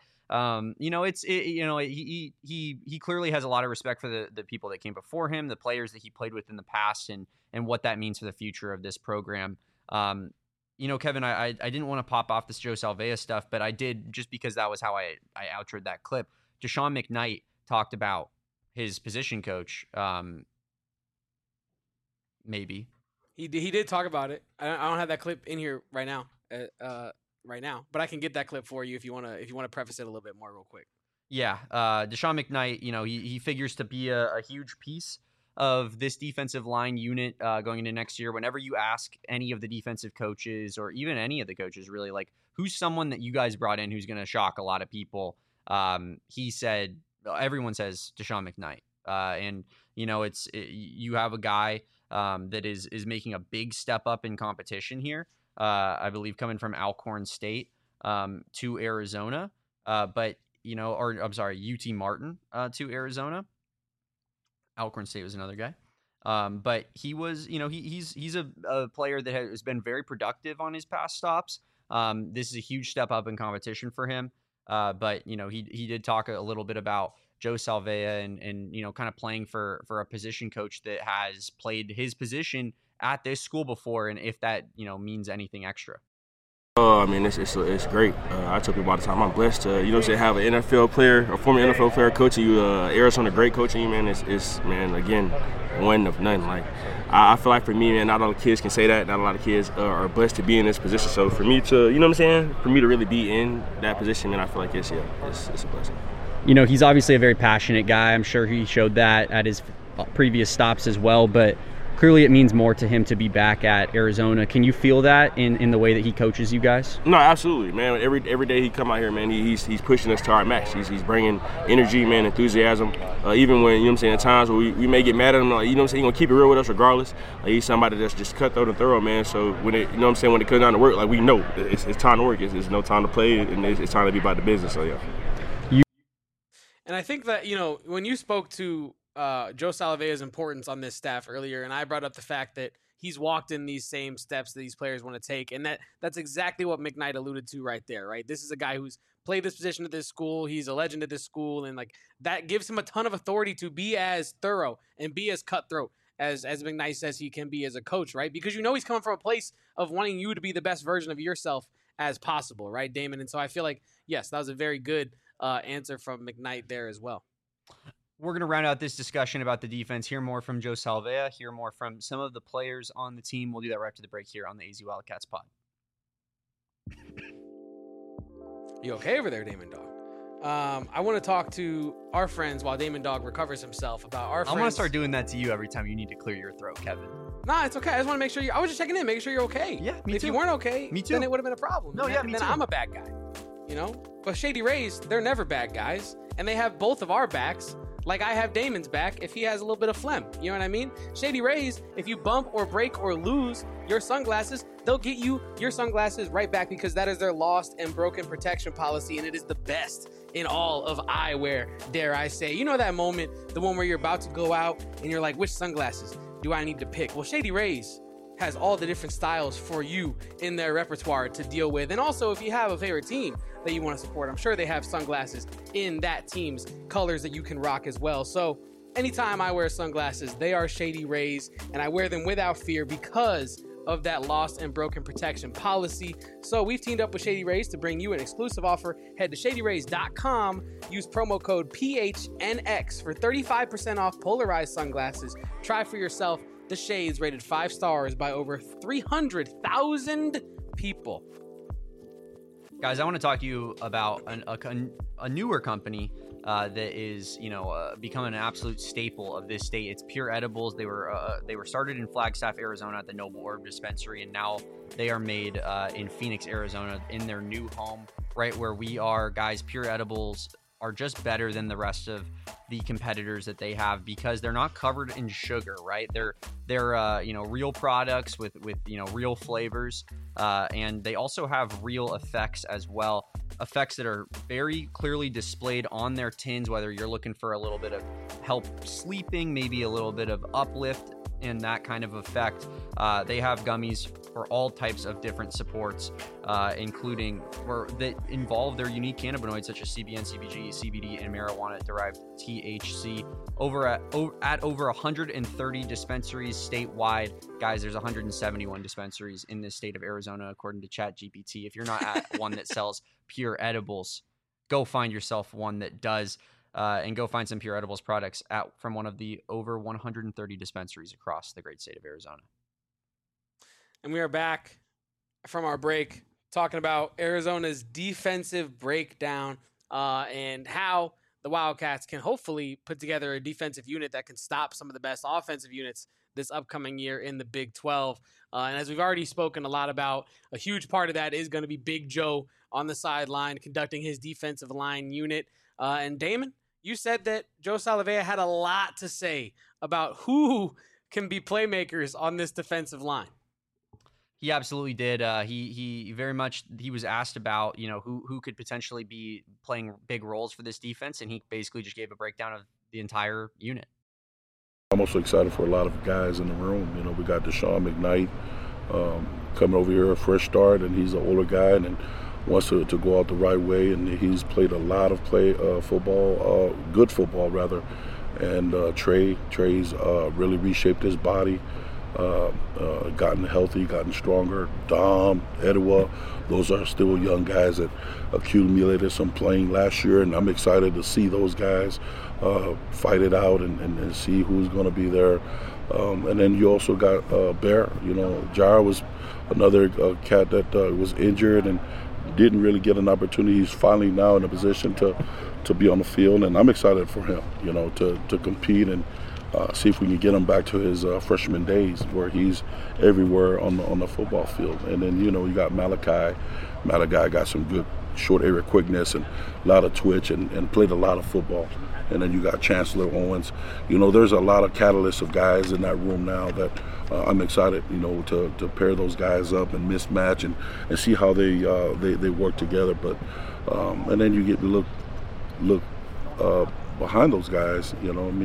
S2: He clearly has a lot of respect for the people that came before him, the players that he played with in the past, and what that means for the future of this program. Kevin, I didn't want to pop off this Joe Salvea stuff, but I did just because that was how I outroed that clip. Deshaun McKnight talked about his position coach. Maybe
S1: he did talk about it. I don't have that clip in here right now. But I can get that clip for you if you want to preface it a little bit more real quick.
S2: Yeah, Deshaun McKnight, he figures to be a huge piece of this defensive line unit going into next year. Whenever you ask any of the defensive coaches or even any of the coaches really, like, who's someone that you guys brought in who's going to shock a lot of people, everyone says Deshaun McKnight. And, you have a guy that is making a big step up in competition here. I believe coming from Alcorn State to Arizona, UT Martin to Arizona. Alcorn State was another guy. But he was, he's a player that has been very productive on his past stops. This is a huge step up in competition for him. But, he did talk a little bit about Joe Salvea and kind of playing for a position coach that has played his position at this school before, and if that means anything extra.
S8: It's great. I tell people all the time I'm blessed to have an NFL player, a former NFL player coaching you, Arizona great coaching you, man. It's again, one of none. Like I feel like for me, man, not a lot of kids can say that. Not a lot of kids are blessed to be in this position. So for me to, for me to really be in that position, man, I feel like it's a blessing.
S2: He's obviously a very passionate guy. I'm sure he showed that at his previous stops as well, but clearly it means more to him to be back at Arizona. Can you feel that in the way that he coaches you guys?
S8: No, absolutely, man. Every day he come out here, man, he's pushing us to our max. He's bringing energy, man, enthusiasm. Even when, at times where we may get mad at him, like, he's going to keep it real with us regardless. Like, he's somebody that's just cutthroat and thorough, man. So when it, when it comes down to work, like, we know it's time to work. It's no time to play, and it's time to be about the business. So, yeah.
S1: And I think that, when you spoke to Joe Salvea's importance on this staff earlier, and I brought up the fact that he's walked in these same steps that these players want to take, and that's exactly what McKnight alluded to right there, right? This is a guy who's played this position at this school. He's a legend at this school, and like that gives him a ton of authority to be as thorough and be as cutthroat as McKnight says he can be as a coach, right? Because he's coming from a place of wanting you to be the best version of yourself as possible, right, Damon? And so I feel like, yes, that was a very good answer from McKnight there as well.
S2: We're going to round out this discussion about the defense, hear more from Joe Salvea, hear more from some of the players on the team. We'll do that right after the break here on the AZ Wildcats pod.
S1: You okay over there, Damon Dog? I want to talk to our friends while Damon Dog recovers himself about our friends.
S2: I'm going to start doing that to you every time you need to clear your throat, Kevin.
S1: Nah, it's okay. I just want to make sure I was just checking in, making sure you're okay.
S2: Yeah, me too.
S1: If you weren't okay,
S2: me too.
S1: Then it would have been a problem.
S2: No, yeah, me too.
S1: Then I'm a bad guy, But Shady Rays, they're never bad guys, and they have both of our backs Like I have Damon's back if he has a little bit of phlegm. You know what I mean? Shady Rays, if you bump or break or lose your sunglasses, they'll get you your sunglasses right back because that is their lost and broken protection policy, and it is the best in all of eyewear, dare I say. You know that moment, the one where you're about to go out and you're like, which sunglasses do I need to pick? Well, Shady Rays has all the different styles for you in their repertoire to deal with. And also, if you have a favorite team that you want to support, I'm sure they have sunglasses in that team's colors that you can rock as well. So anytime I wear sunglasses, they are Shady Rays, and I wear them without fear because of that lost and broken protection policy. So we've teamed up with Shady Rays to bring you an exclusive offer. Head to shadyrays.com, use promo code PHNX for 35% off polarized sunglasses. Try for yourself the shades rated 5 stars by over 300,000 people.
S2: Guys, I want to talk to you about a newer company that is, becoming an absolute staple of this state. It's Pure Edibles. They were started in Flagstaff, Arizona at the Noble Herb Dispensary, and now they are made in Phoenix, Arizona, in their new home, right where we are. Guys, Pure Edibles are just better than the rest of the competitors that they have because they're not covered in sugar, right? They're real products with real flavors, and they also have real effects as well. Effects that are very clearly displayed on their tins, whether you're looking for a little bit of help sleeping, maybe a little bit of uplift and that kind of effect. They have gummies for all types of different supports, including that involve their unique cannabinoids such as CBN, CBG, CBD, and marijuana-derived THC. At over 130 dispensaries statewide. Guys, there's 171 dispensaries in this state of Arizona, according to ChatGPT. If you're not at one that sells Pure Edibles, go find yourself one that does. And go find some Pure Edibles products from one of the over 130 dispensaries across the great state of Arizona.
S1: And we are back from our break talking about Arizona's defensive breakdown and how the Wildcats can hopefully put together a defensive unit that can stop some of the best offensive units this upcoming year in the Big 12. And as we've already spoken a lot about, a huge part of that is going to be Big Joe on the sideline conducting his defensive line unit. And Damon, you said that Joe Salavea had a lot to say about who can be playmakers on this defensive line.
S2: He absolutely did. He was asked about, who could potentially be playing big roles for this defense, and he basically just gave a breakdown of the entire unit.
S7: I'm also excited for a lot of guys in the room. We got Deshaun McKnight coming over here, a fresh start, and he's an older guy and wants to go out the right way, and he's played a lot of football, good football rather, and Trey's really reshaped his body, gotten healthy, gotten stronger. Dom, Edwa, those are still young guys that accumulated some playing last year, and I'm excited to see those guys fight it out and see who's going to be there. And then you also got Bear. Jar was another cat that was injured and didn't really get an opportunity. He's finally now in a position to be on the field, and I'm excited for him, to compete and see if we can get him back to his freshman days where he's everywhere on the football field. And then, you got Malachi. Malachi got some good short area quickness and a lot of twitch and played a lot of football. And then you got Chancellor Owens. There's a lot of catalysts of guys in that room now that I'm excited, to pair those guys up and mismatch and see how they work together. But and then you get to look behind those guys.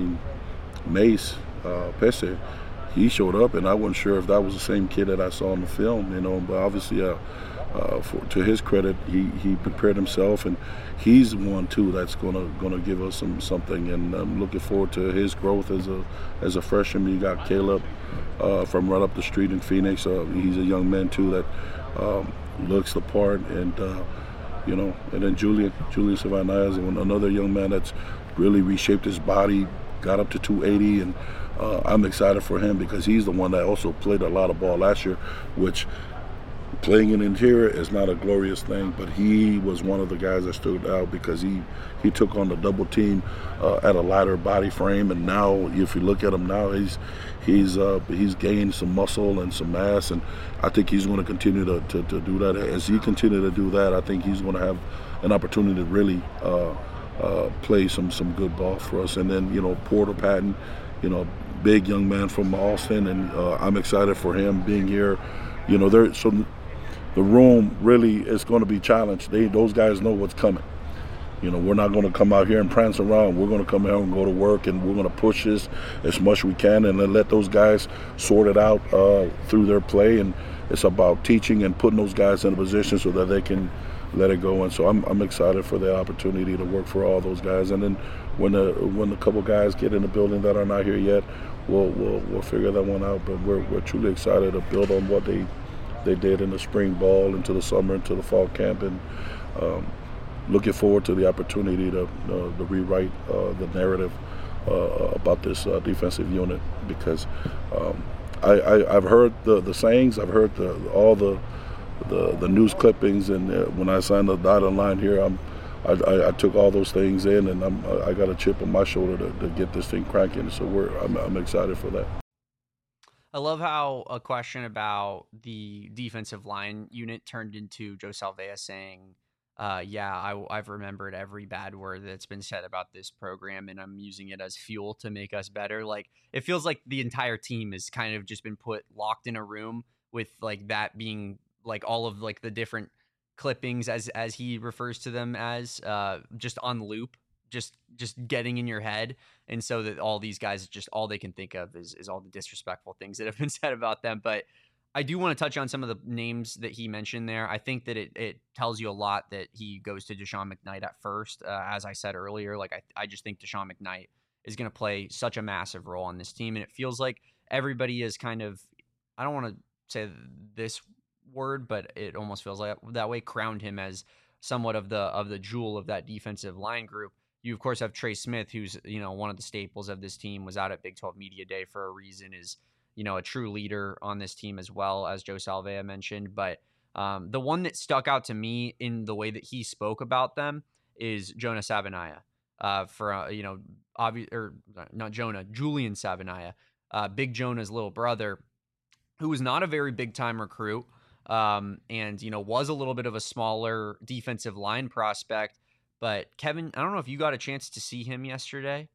S7: Mace Pesce, he showed up, and I wasn't sure if that was the same kid that I saw in the film. But obviously, to his credit, he prepared himself, and he's one too that's gonna give us something. And I'm looking forward to his growth as a freshman. You got Caleb from right up the street in Phoenix. He's a young man too that looks the part, and and then Julian Savannah, another young man that's really reshaped his body, got up to 280, and I'm excited for him because he's the one that also played a lot of ball last year, which playing in interior is not a glorious thing, but he was one of the guys that stood out because he took on the double team at a lighter body frame, and now if you look at him now, he's gained some muscle and some mass, and I think he's going to continue to do that. As he continue to do that, I think he's going to have an opportunity to really play some good ball for us. And then, Porter Patton, big young man from Austin, and I'm excited for him being here. So the room really is going to be challenged. Those guys know what's coming. We're not going to come out here and prance around. We're going to come out and go to work, and we're going to push this as much as we can and then let those guys sort it out through their play. And it's about teaching and putting those guys in a position so that they can let it go. And so I'm excited for the opportunity to work for all those guys. And then when a couple guys get in the building that are not here yet, we'll figure that one out. But we're truly excited to build on what they did in the spring ball, into the summer, into the fall camp, and looking forward to the opportunity to rewrite the narrative about this defensive unit, because I've heard the sayings, I've heard all the news clippings, and when I signed the dotted line here, I took all those things in, and I got a chip on my shoulder to get this thing cranking. So I'm excited for that.
S2: I love how a question about the defensive line unit turned into Joe Salvea saying, I've remembered every bad word that's been said about this program, and I'm using it as fuel to make us better. Like, it feels like the entire team has kind of just been locked in a room with like that being like all of like the different clippings as he refers to them as just on loop, just getting in your head. And so that all these guys, just all they can think of is all the disrespectful things that have been said about them. But I do want to touch on some of the names that he mentioned there. I think that it tells you a lot that he goes to Deshaun McKnight at first. As I said earlier, like I just think Deshaun McKnight is going to play such a massive role on this team. And it feels like everybody is kind of, I don't want to say this word, but it almost feels like that way, crowned him as somewhat of the jewel of that defensive line group. You, of course, have Trey Smith, who's, one of the staples of this team, was out at Big 12 Media Day for a reason, is, a true leader on this team as well, as Joe Salvea mentioned. But the one that stuck out to me in the way that he spoke about them is Jonah Savaiinaea, Julian Savaiinaea, Big Jonah's little brother, who was not a very big-time recruit, and, was a little bit of a smaller defensive line prospect. But Kevin, I don't know if you got a chance to see him yesterday.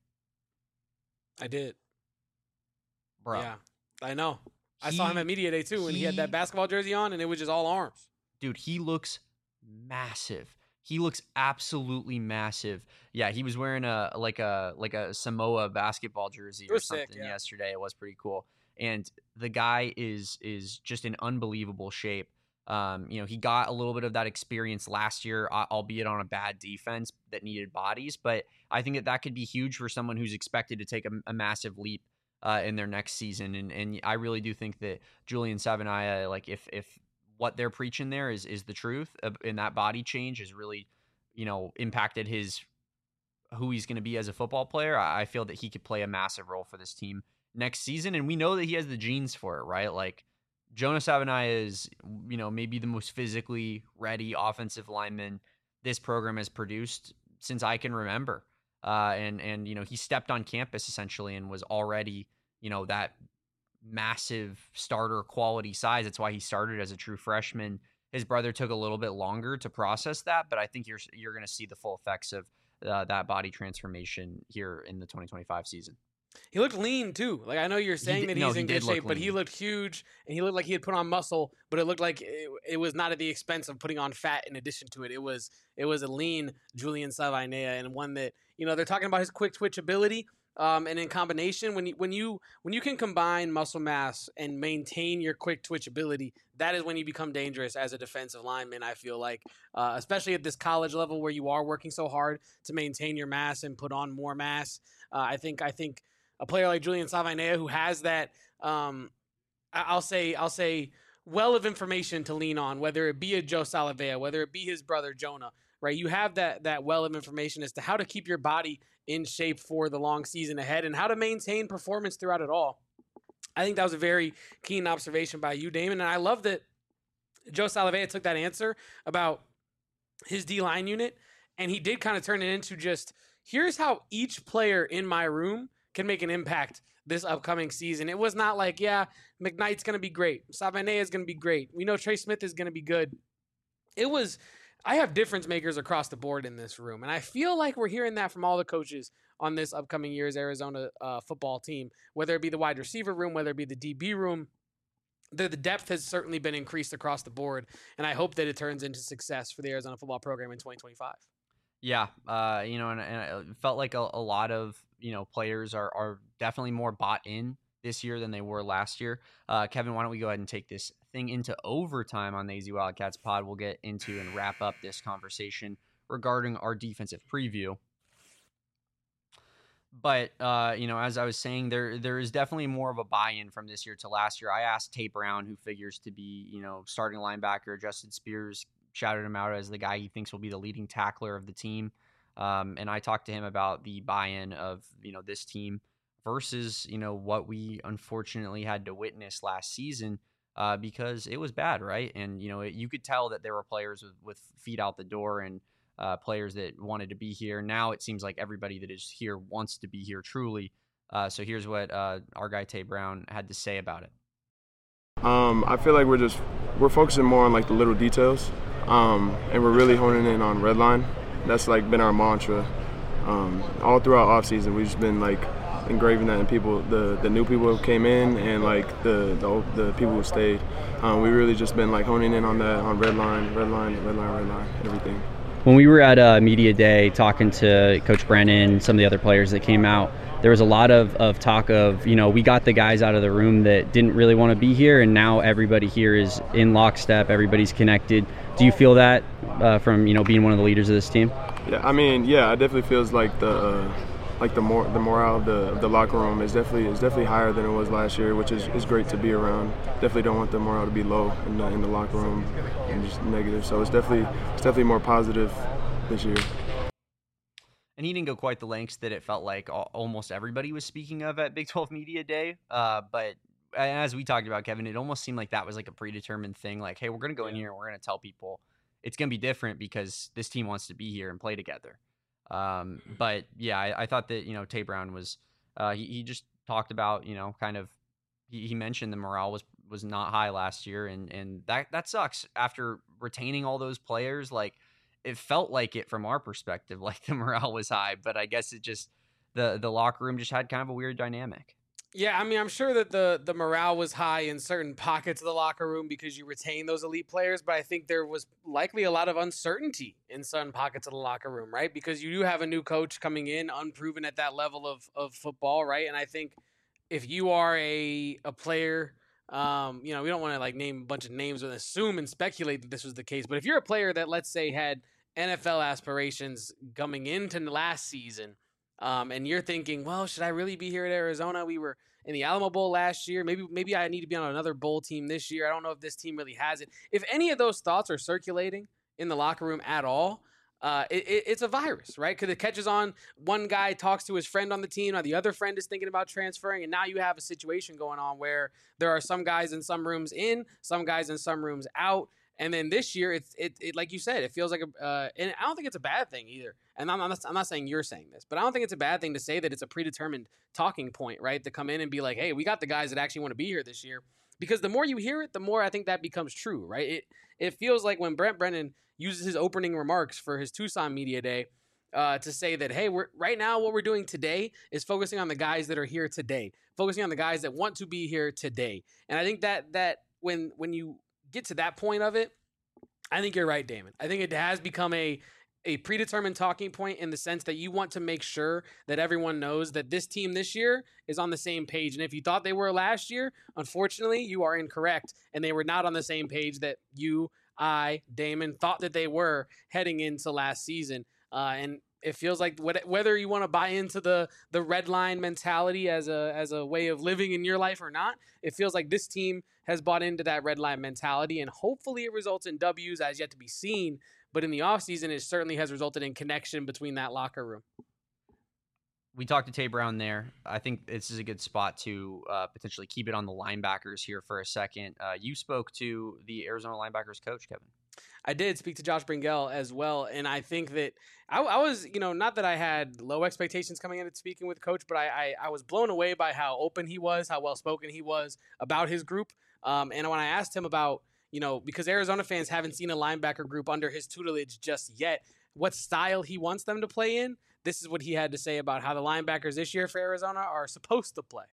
S1: I did.
S2: Bro.
S1: Yeah, I know. I saw him at Media Day too, and he had that basketball jersey on, and it was just all arms.
S2: Dude, he looks massive. He looks absolutely massive. Yeah, he was wearing a Samoa basketball jersey or something yesterday. It was pretty cool. And the guy is just in unbelievable shape. He got a little bit of that experience last year, albeit on a bad defense that needed bodies. But I think that could be huge for someone who's expected to take a massive leap in their next season. And I really do think that Julian Savaiinaea, like if what they're preaching there is the truth, and that body change has really, impacted who he's going to be as a football player, I feel that he could play a massive role for this team next season. And we know that he has the genes for it, right? Like, Jonah Savaiinaea is, maybe the most physically ready offensive lineman this program has produced since I can remember. And he stepped on campus essentially and was already, that massive starter quality size. That's why he started as a true freshman. His brother took a little bit longer to process that, but I think you're going to see the full effects of that body transformation here in the 2025 season.
S1: He looked lean too. Like, I know you're saying that he's in good shape, but he looked huge, and he looked like he had put on muscle, but it looked like it was not at the expense of putting on fat in addition to it. It was a lean Julian Savaiinaea, and one that, they're talking about his quick twitch ability, and in combination, when you can combine muscle mass and maintain your quick twitch ability, that is when you become dangerous as a defensive lineman. I feel like, especially at this college level where you are working so hard to maintain your mass and put on more mass. I think a player like Julian Savaiinaea, who has that, I'll say, well of information to lean on, whether it be a Joe Salvea, whether it be his brother Jonah, right? You have that well of information as to how to keep your body in shape for the long season ahead and how to maintain performance throughout it all. I think that was a very keen observation by you, Damon, and I love that Joe Salvea took that answer about his D-line unit, and he did kind of turn it into just, here's how each player in my room can make an impact this upcoming season. It was not like, McKnight's going to be great. Savaiinaea is going to be great. We know Trey Smith is going to be good. It was, I have difference makers across the board in this room, and I feel like we're hearing that from all the coaches on this upcoming year's Arizona football team, whether it be the wide receiver room, whether it be the DB room. The depth has certainly been increased across the board, and I hope that it turns into success for the Arizona football program in 2025.
S2: Yeah, and it felt like a lot of, players are definitely more bought in this year than they were last year. Kevin, why don't we go ahead and take this thing into overtime on the AZ Wildcats pod? We'll get into and wrap up this conversation regarding our defensive preview. But, as I was saying, there is definitely more of a buy-in from this year to last year. I asked Tate Brown, who figures to be, starting linebacker. Justin Spears shouted him out as the guy he thinks will be the leading tackler of the team. And I talked to him about the buy-in of, this team versus, what we unfortunately had to witness last season because it was bad, right? And, you could tell that there were players with feet out the door and players that wanted to be here. Now it seems like everybody that is here wants to be here truly. So here's what our guy Tate Brown had to say about it.
S9: I feel like we're focusing more on like the little details, and we're really honing in on red line. That's like been our mantra all throughout off season. We've just been like engraving that in people, the new people who came in and like the people who stayed. We really just been like honing in on that, on red line, everything.
S10: When we were at Media Day talking to Coach Brennan, some of the other players that came out, there was a lot of talk of, we got the guys out of the room that didn't really want to be here, and now everybody here is in lockstep, everybody's connected. Do you feel that from, being one of the leaders of this team?
S9: Yeah, it definitely feels like the morale of the locker room is definitely higher than it was last year, which is great to be around. Definitely don't want the morale to be low in the locker room and just negative. So it's definitely more positive this year.
S2: And he didn't go quite the lengths that it felt like almost everybody was speaking of at Big 12 Media Day. But as we talked about, Kevin, it almost seemed like that was like a predetermined thing. Like, hey, we're going to go in here and we're going to tell people it's going to be different because this team wants to be here and play together. But yeah, I thought that, Tate Brown was, he just talked about, kind of, he mentioned the morale was not high last year. And that sucks after retaining all those players. Like, it felt like it from our perspective, like the morale was high, but I guess it just, the locker room just had kind of a weird dynamic.
S1: Yeah, I'm sure that the morale was high in certain pockets of the locker room because you retain those elite players, but I think there was likely a lot of uncertainty in certain pockets of the locker room, right? Because you do have a new coach coming in, unproven at that level of football, right? And I think if you are a player, we don't want to like name a bunch of names and assume and speculate that this was the case, but if you're a player that, let's say, had NFL aspirations coming into last season, and you're thinking, well, should I really be here at Arizona? We were in the Alamo Bowl last year. Maybe I need to be on another bowl team this year. I don't know if this team really has it. If any of those thoughts are circulating in the locker room at all, it's a virus, right? Because it catches on. One guy talks to his friend on the team. Now the other friend is thinking about transferring. And now you have a situation going on where there are some guys in some rooms in, some guys in some rooms out. And then this year, it like you said, it feels like and I don't think it's a bad thing either. And I'm not saying you're saying this, but I don't think it's a bad thing to say that it's a predetermined talking point, right? To come in and be like, hey, we got the guys that actually want to be here this year. Because the more you hear it, the more I think that becomes true, right? It feels like when Brent Brennan uses his opening remarks for his Tucson Media Day to say that, hey, right now what we're doing today is focusing on the guys that are here today, focusing on the guys that want to be here today. And I think that when you get to that point of it, I think you're right, Damon. I think it has become a predetermined talking point in the sense that you want to make sure that everyone knows that this team this year is on the same page. And if you thought they were last year, unfortunately, you are incorrect. And they were not on the same page that you, Damon, thought that they were heading into last season. And it feels like whether you want to buy into the red line mentality as a way of living in your life or not, it feels like this team has bought into that red line mentality, and hopefully it results in W's as yet to be seen. But in the offseason, it certainly has resulted in connection between that locker room.
S2: We talked to Tate Brown there. I think this is a good spot to potentially keep it on the linebackers here for a second. You spoke to the Arizona linebackers coach, Kevin.
S1: I did speak to Josh Bringell as well, and I think that I was, not that I had low expectations coming into speaking with Coach, but I was blown away by how open he was, how well-spoken he was about his group. And when I asked him about, because Arizona fans haven't seen a linebacker group under his tutelage just yet, what style he wants them to play in. This is what he had to say about how the linebackers this year for Arizona are supposed to play.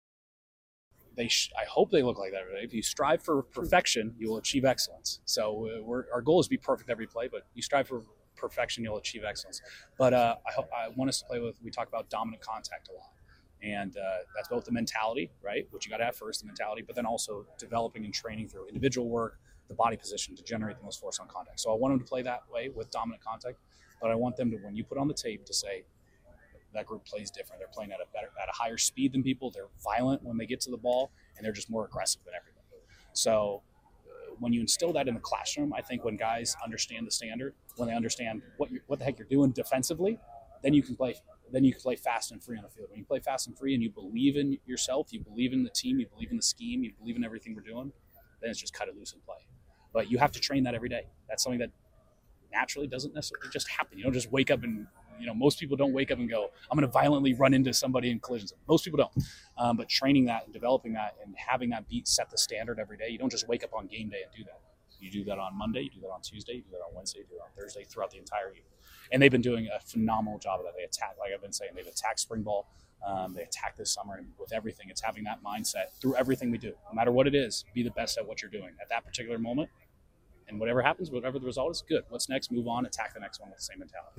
S11: I hope they look like that. If you strive for perfection, you will achieve excellence. So our goal is to be perfect every play, but you strive for perfection, you'll achieve excellence. But I want us to play with, we talk about dominant contact a lot. And that's both the mentality, right, which you got to have first, the mentality, but then also developing and training through individual work, the body position to generate the most force on contact. So I want them to play that way with dominant contact, but I want them to, when you put on the tape, to say that group plays different. They're playing at a higher speed than people. They're violent when they get to the ball, and they're just more aggressive than everybody. So when you instill that in the classroom, I think when guys understand the standard, when they understand what the heck you're doing defensively, then you can play fast and free on the field. When you play fast and free and you believe in yourself, you believe in the team, you believe in the scheme, you believe in everything we're doing, then it's just cut it loose and play. But you have to train that every day. That's something that naturally doesn't necessarily just happen. You don't just wake up and, most people don't wake up and go, I'm going to violently run into somebody in collisions. Most people don't. But training that and developing that and having that beat set the standard every day, you don't just wake up on game day and do that. You do that on Monday, you do that on Tuesday, you do that on Wednesday, you do that on Thursday, throughout the entire year. And they've been doing a phenomenal job of that. They attack, like I've been saying, they've attacked spring ball. They attack this summer, and with everything, it's having that mindset through everything we do. No matter what it is, be the best at what you're doing at that particular moment. And whatever happens, whatever the result is, good. What's next? Move on, attack the next one with the same mentality.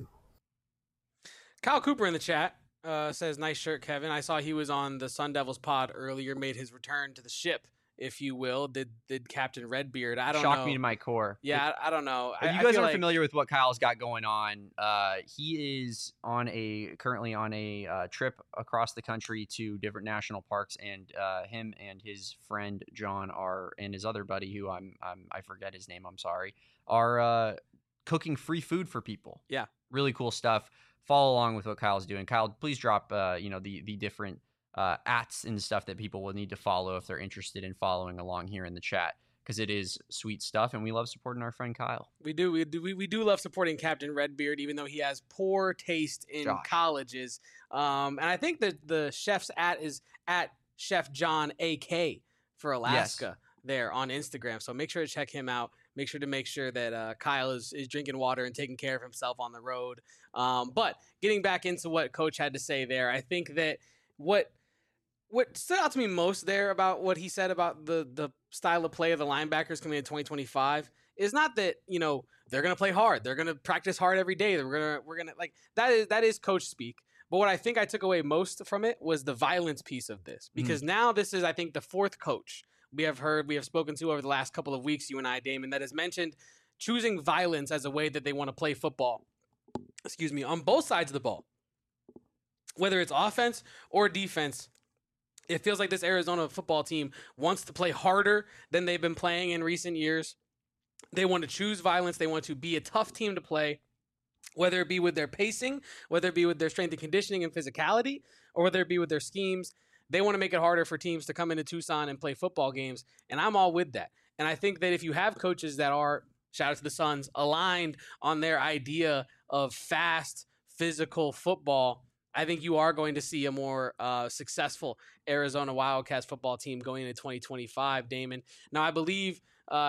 S1: Kyle Cooper in the chat says, nice shirt, Kevin. I saw he was on the Sun Devils pod earlier, made his return to the ship, if you will. Did Captain Redbeard? I don't know.
S2: Shocked me to my core.
S1: Yeah, I don't know.
S2: If you guys aren't familiar with what Kyle's got going on, he is currently on a trip across the country to different national parks, and him and his friend John and his other buddy, who I forget his name, I'm sorry, are cooking free food for people.
S1: Yeah,
S2: really cool stuff. Follow along with what Kyle's doing. Kyle, please drop the different ats and stuff that people will need to follow if they're interested in following along here in the chat, because it is sweet stuff, and we love supporting our friend Kyle.
S1: We do love supporting Captain Redbeard, even though he has poor taste in colleges. And I think that the chef's at is at Chef John AK for Alaska there on Instagram. So make sure to check him out. Make sure that Kyle is drinking water and taking care of himself on the road. But getting back into what Coach had to say there, I think that what stood out to me most there about what he said about the style of play of the linebackers coming in 2025 is not that, they're going to play hard. They're going to practice hard every day. We're going to like that is coach speak. But what I think I took away most from it was the violence piece of this, because now this is, I think, the fourth coach we have spoken to over the last couple of weeks, you and I, Damon, that has mentioned choosing violence as a way that they want to play football. On both sides of the ball, whether it's offense or defense. It feels like this Arizona football team wants to play harder than they've been playing in recent years. They want to choose violence. They want to be a tough team to play, whether it be with their pacing, whether it be with their strength and conditioning and physicality, or whether it be with their schemes. They want to make it harder for teams to come into Tucson and play football games, and I'm all with that. And I think that if you have coaches that are, shout out to the Suns, aligned on their idea of fast, physical football, I think you are going to see a more successful Arizona Wildcats football team going into 2025, Damon. Now, I believe,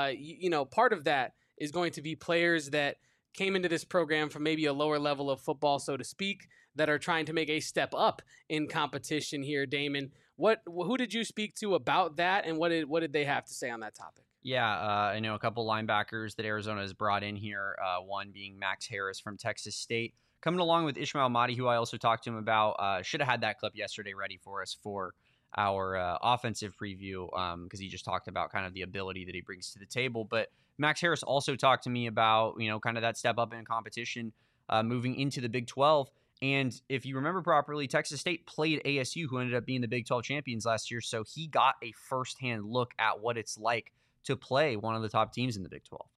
S1: part of that is going to be players that came into this program from maybe a lower level of football, so to speak, that are trying to make a step up in competition here, Damon. Who did you speak to about that, and what did they have to say on that topic?
S2: Yeah, I know a couple linebackers that Arizona has brought in here, one being Max Harris from Texas State, coming along with Ishmael Mahdi, who I also talked to him about. Should have had that clip yesterday ready for us for our offensive preview, because he just talked about kind of the ability that he brings to the table. But Max Harris also talked to me about, kind of that step up in competition moving into the Big 12. And if you remember properly, Texas State played ASU, who ended up being the Big 12 champions last year. So he got a firsthand look at what it's like to play one of the top teams in the Big 12.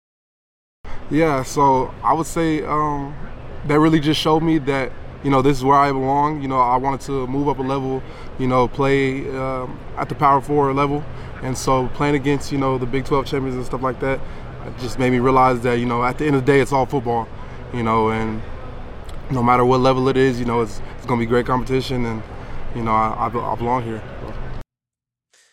S9: Yeah, so I would say that really just showed me that, this is where I belong. I wanted to move up a level, play at the Power 4 level. And so playing against, the Big 12 champions and stuff like that, it just made me realize that, at the end of the day, it's all football, and no matter what level it is, it's going to be great competition, and, I belong here.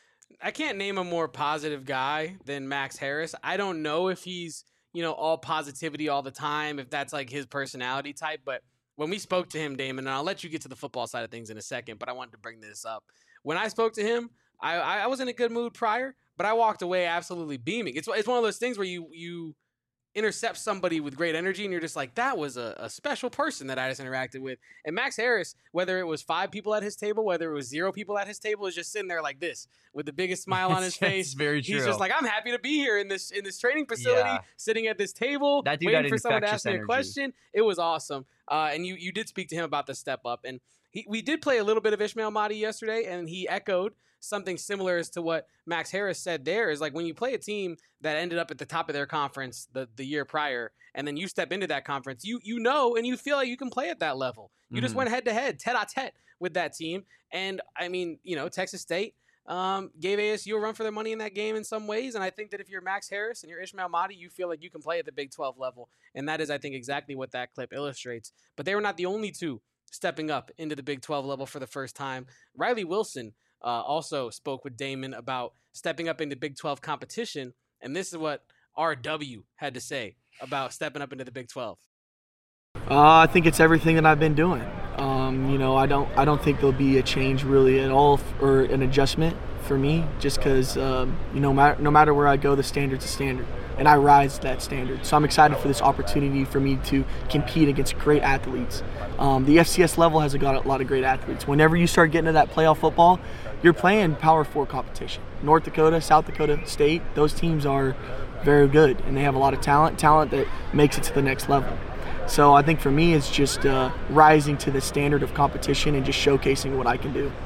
S1: I can't name a more positive guy than Max Harris. I don't know if he's, all positivity all the time, if that's like his personality type. But when we spoke to him, Damon, and I'll let you get to the football side of things in a second, but I wanted to bring this up. When I spoke to him, I was in a good mood prior, but I walked away absolutely beaming. It's one of those things where you intercept somebody with great energy and you're just like, that was a special person that I just interacted with. And Max Harris, whether it was 5 people at his table, whether it was 0 people at his table, is just sitting there like this with the biggest smile on his face.
S2: Very true.
S1: He's just like, I'm happy to be here in this training facility, sitting at this table,
S2: that dude
S1: waiting for someone to ask me
S2: energy.
S1: a question. It was awesome. And you did speak to him about the step up. And we did play a little bit of Ishmael Mahdi yesterday, and he echoed something similar as to what Max Harris said there. Is like when you play a team that ended up at the top of their conference the year prior, and then you step into that conference, you know and you feel like you can play at that level. You just went head-to-head, tete-a-tete with that team. And, I mean, Texas State gave ASU a run for their money in that game in some ways, and I think that if you're Max Harris and you're Ishmael Mahdi, you feel like you can play at the Big 12 level, and that is, I think, exactly what that clip illustrates. But they were not the only two stepping up into the Big 12 level for the first time. Riley Wilson also spoke with Damon about stepping up into Big 12 competition, and this is what RW had to say about stepping up into the Big 12.
S6: I think it's everything that I've been doing. I don't think there'll be a change really at all or an adjustment for me, just because no matter where I go, the standard's a standard, and I rise to that standard. So I'm excited for this opportunity for me to compete against great athletes. The FCS level has got a lot of great athletes. Whenever you start getting to that playoff football, you're playing Power 4 competition. North Dakota, South Dakota State, those teams are very good, and they have a lot of talent that makes it to the next level. So I think for me, it's just rising to the standard of competition and just showcasing what I can do.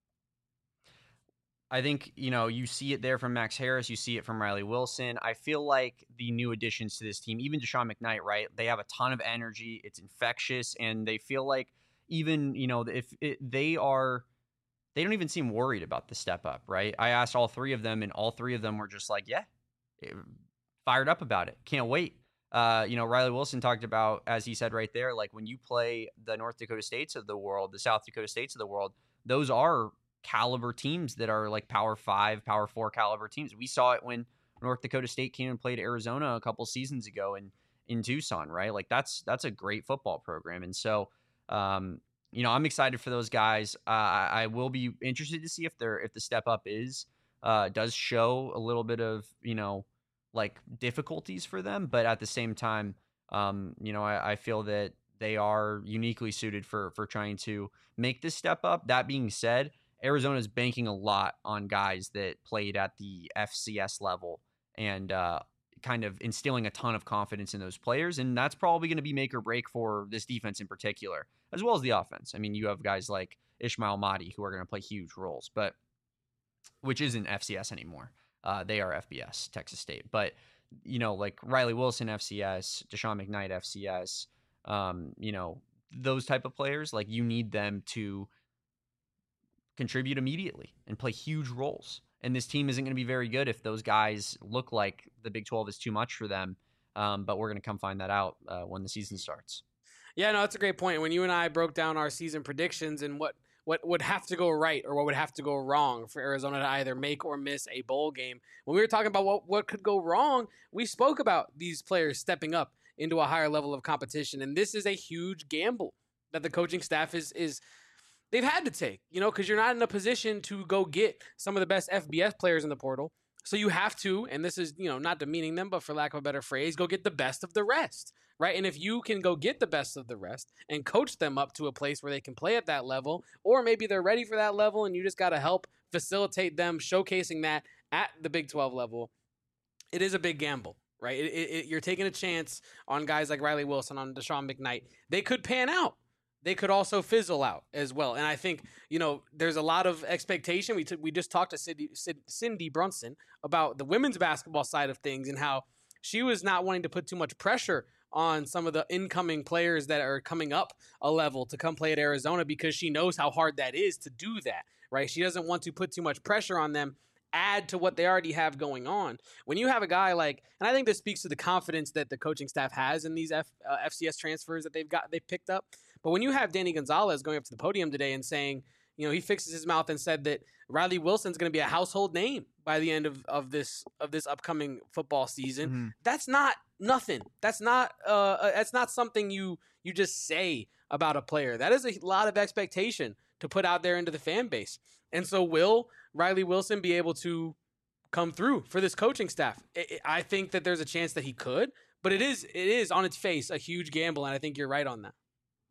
S2: I think, you see it there from Max Harris. You see it from Riley Wilson. I feel like the new additions to this team, even Deshaun McKnight, right? They have a ton of energy. It's infectious. And they feel like even, they don't even seem worried about the step up, right? I asked all 3 of them, and all 3 of them were just like, yeah, fired up about it. Can't wait. Riley Wilson talked about, as he said right there, like when you play the North Dakota States of the world, the South Dakota States of the world, those are caliber teams that are like Power 5, Power 4 caliber teams. We saw it when North Dakota State came and played Arizona a couple seasons ago in Tucson, right? Like that's a great football program. And so, I'm excited for those guys. I will be interested to see if the step up does show a little bit of, like difficulties for them, but at the same time, I feel that they are uniquely suited for trying to make this step up. That being said, Arizona is banking a lot on guys that played at the FCS level and kind of instilling a ton of confidence in those players, and that's probably going to be make or break for this defense in particular, as well as the offense. I mean, you have guys like Ishmael Mahdi who are going to play huge roles, but which isn't FCS anymore. They are FBS, Texas State. But, like Riley Wilson, FCS, Deshaun McKnight, FCS, those type of players, like you need them to contribute immediately and play huge roles. And this team isn't going to be very good if those guys look like the Big 12 is too much for them. But we're going to come find that out when the season starts.
S1: Yeah, no, that's a great point. When you and I broke down our season predictions and what would have to go right or what would have to go wrong for Arizona to either make or miss a bowl game, when we were talking about what could go wrong, we spoke about these players stepping up into a higher level of competition. And this is a huge gamble that the coaching staff is they've had to take, because you're not in a position to go get some of the best FBS players in the portal. So you have to, and this is, not demeaning them, but for lack of a better phrase, go get the best of the rest, right? And if you can go get the best of the rest and coach them up to a place where they can play at that level, or maybe they're ready for that level and you just got to help facilitate them showcasing that at the Big 12 level, it is a big gamble, right? You're taking a chance on guys like Riley Wilson, on Deshaun McKnight. They could pan out. They could also fizzle out as well. And I think, there's a lot of expectation. We just talked to Cindy Brunson about the women's basketball side of things and how she was not wanting to put too much pressure on some of the incoming players that are coming up a level to come play at Arizona, because she knows how hard that is to do that, right? She doesn't want to put too much pressure on them, add to what they already have going on. When you have a guy like, and I think this speaks to the confidence that the coaching staff has in these FCS transfers that they've picked up. But when you have Danny Gonzalez going up to the podium today and saying, he fixes his mouth and said that Riley Wilson's going to be a household name by the end of this upcoming football season.
S2: Mm-hmm.
S1: That's not nothing. That's not something you just say about a player. That is a lot of expectation to put out there into the fan base. And so will Riley Wilson be able to come through for this coaching staff? I think that there's a chance that he could, but it is on its face a huge gamble, and I think you're right on that.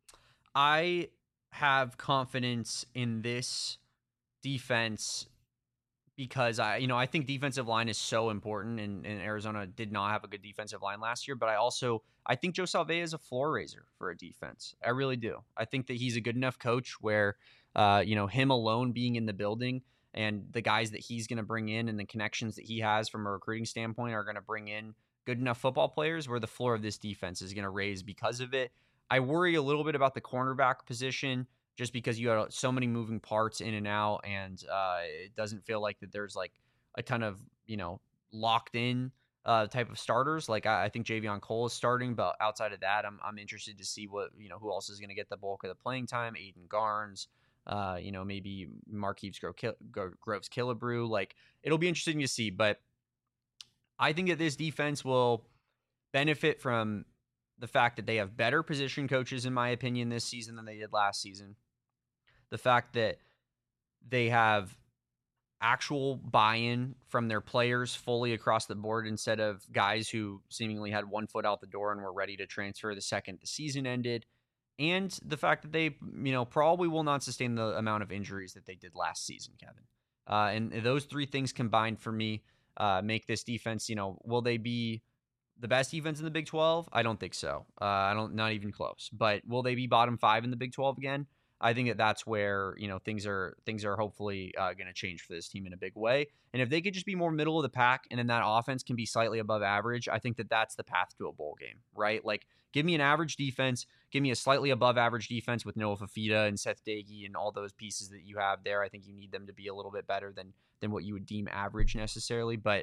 S2: I have confidence in this defense because I think defensive line is so important, and Arizona did not have a good defensive line last year. But I think Joe Salve is a floor raiser for a defense. I really do. I think that he's a good enough coach where, him alone being in the building and the guys that he's going to bring in and the connections that he has from a recruiting standpoint are going to bring in good enough football players where the floor of this defense is going to raise because of it. I worry a little bit about the cornerback position just because you have so many moving parts in and out, and it doesn't feel like that there's like a ton of, locked in type of starters. Like I think Javion Cole is starting, but outside of that, I'm interested to see what, who else is going to get the bulk of the playing time. Aiden Garnes, maybe Marquise Groves Killebrew. Like, it'll be interesting to see, but I think that this defense will benefit from the fact that they have better position coaches, in my opinion, this season than they did last season. The fact that they have actual buy-in from their players fully across the board instead of guys who seemingly had one foot out the door and were ready to transfer the second the season ended. And the fact that they, probably will not sustain the amount of injuries that they did last season, Kevin. And those three things combined for me make this defense, will they be the best defense in the Big 12? I don't think so. Not even close. But will they be bottom 5 in the Big 12 again? I think that's where, things are hopefully going to change for this team in a big way. And if they could just be more middle of the pack and then that offense can be slightly above average, I think that that's the path to a bowl game, right? Like, give me an average defense, give me a slightly above average defense with Noah Fafita and Seth Doege and all those pieces that you have there. I think you need them to be a little bit better than what you would deem average necessarily. But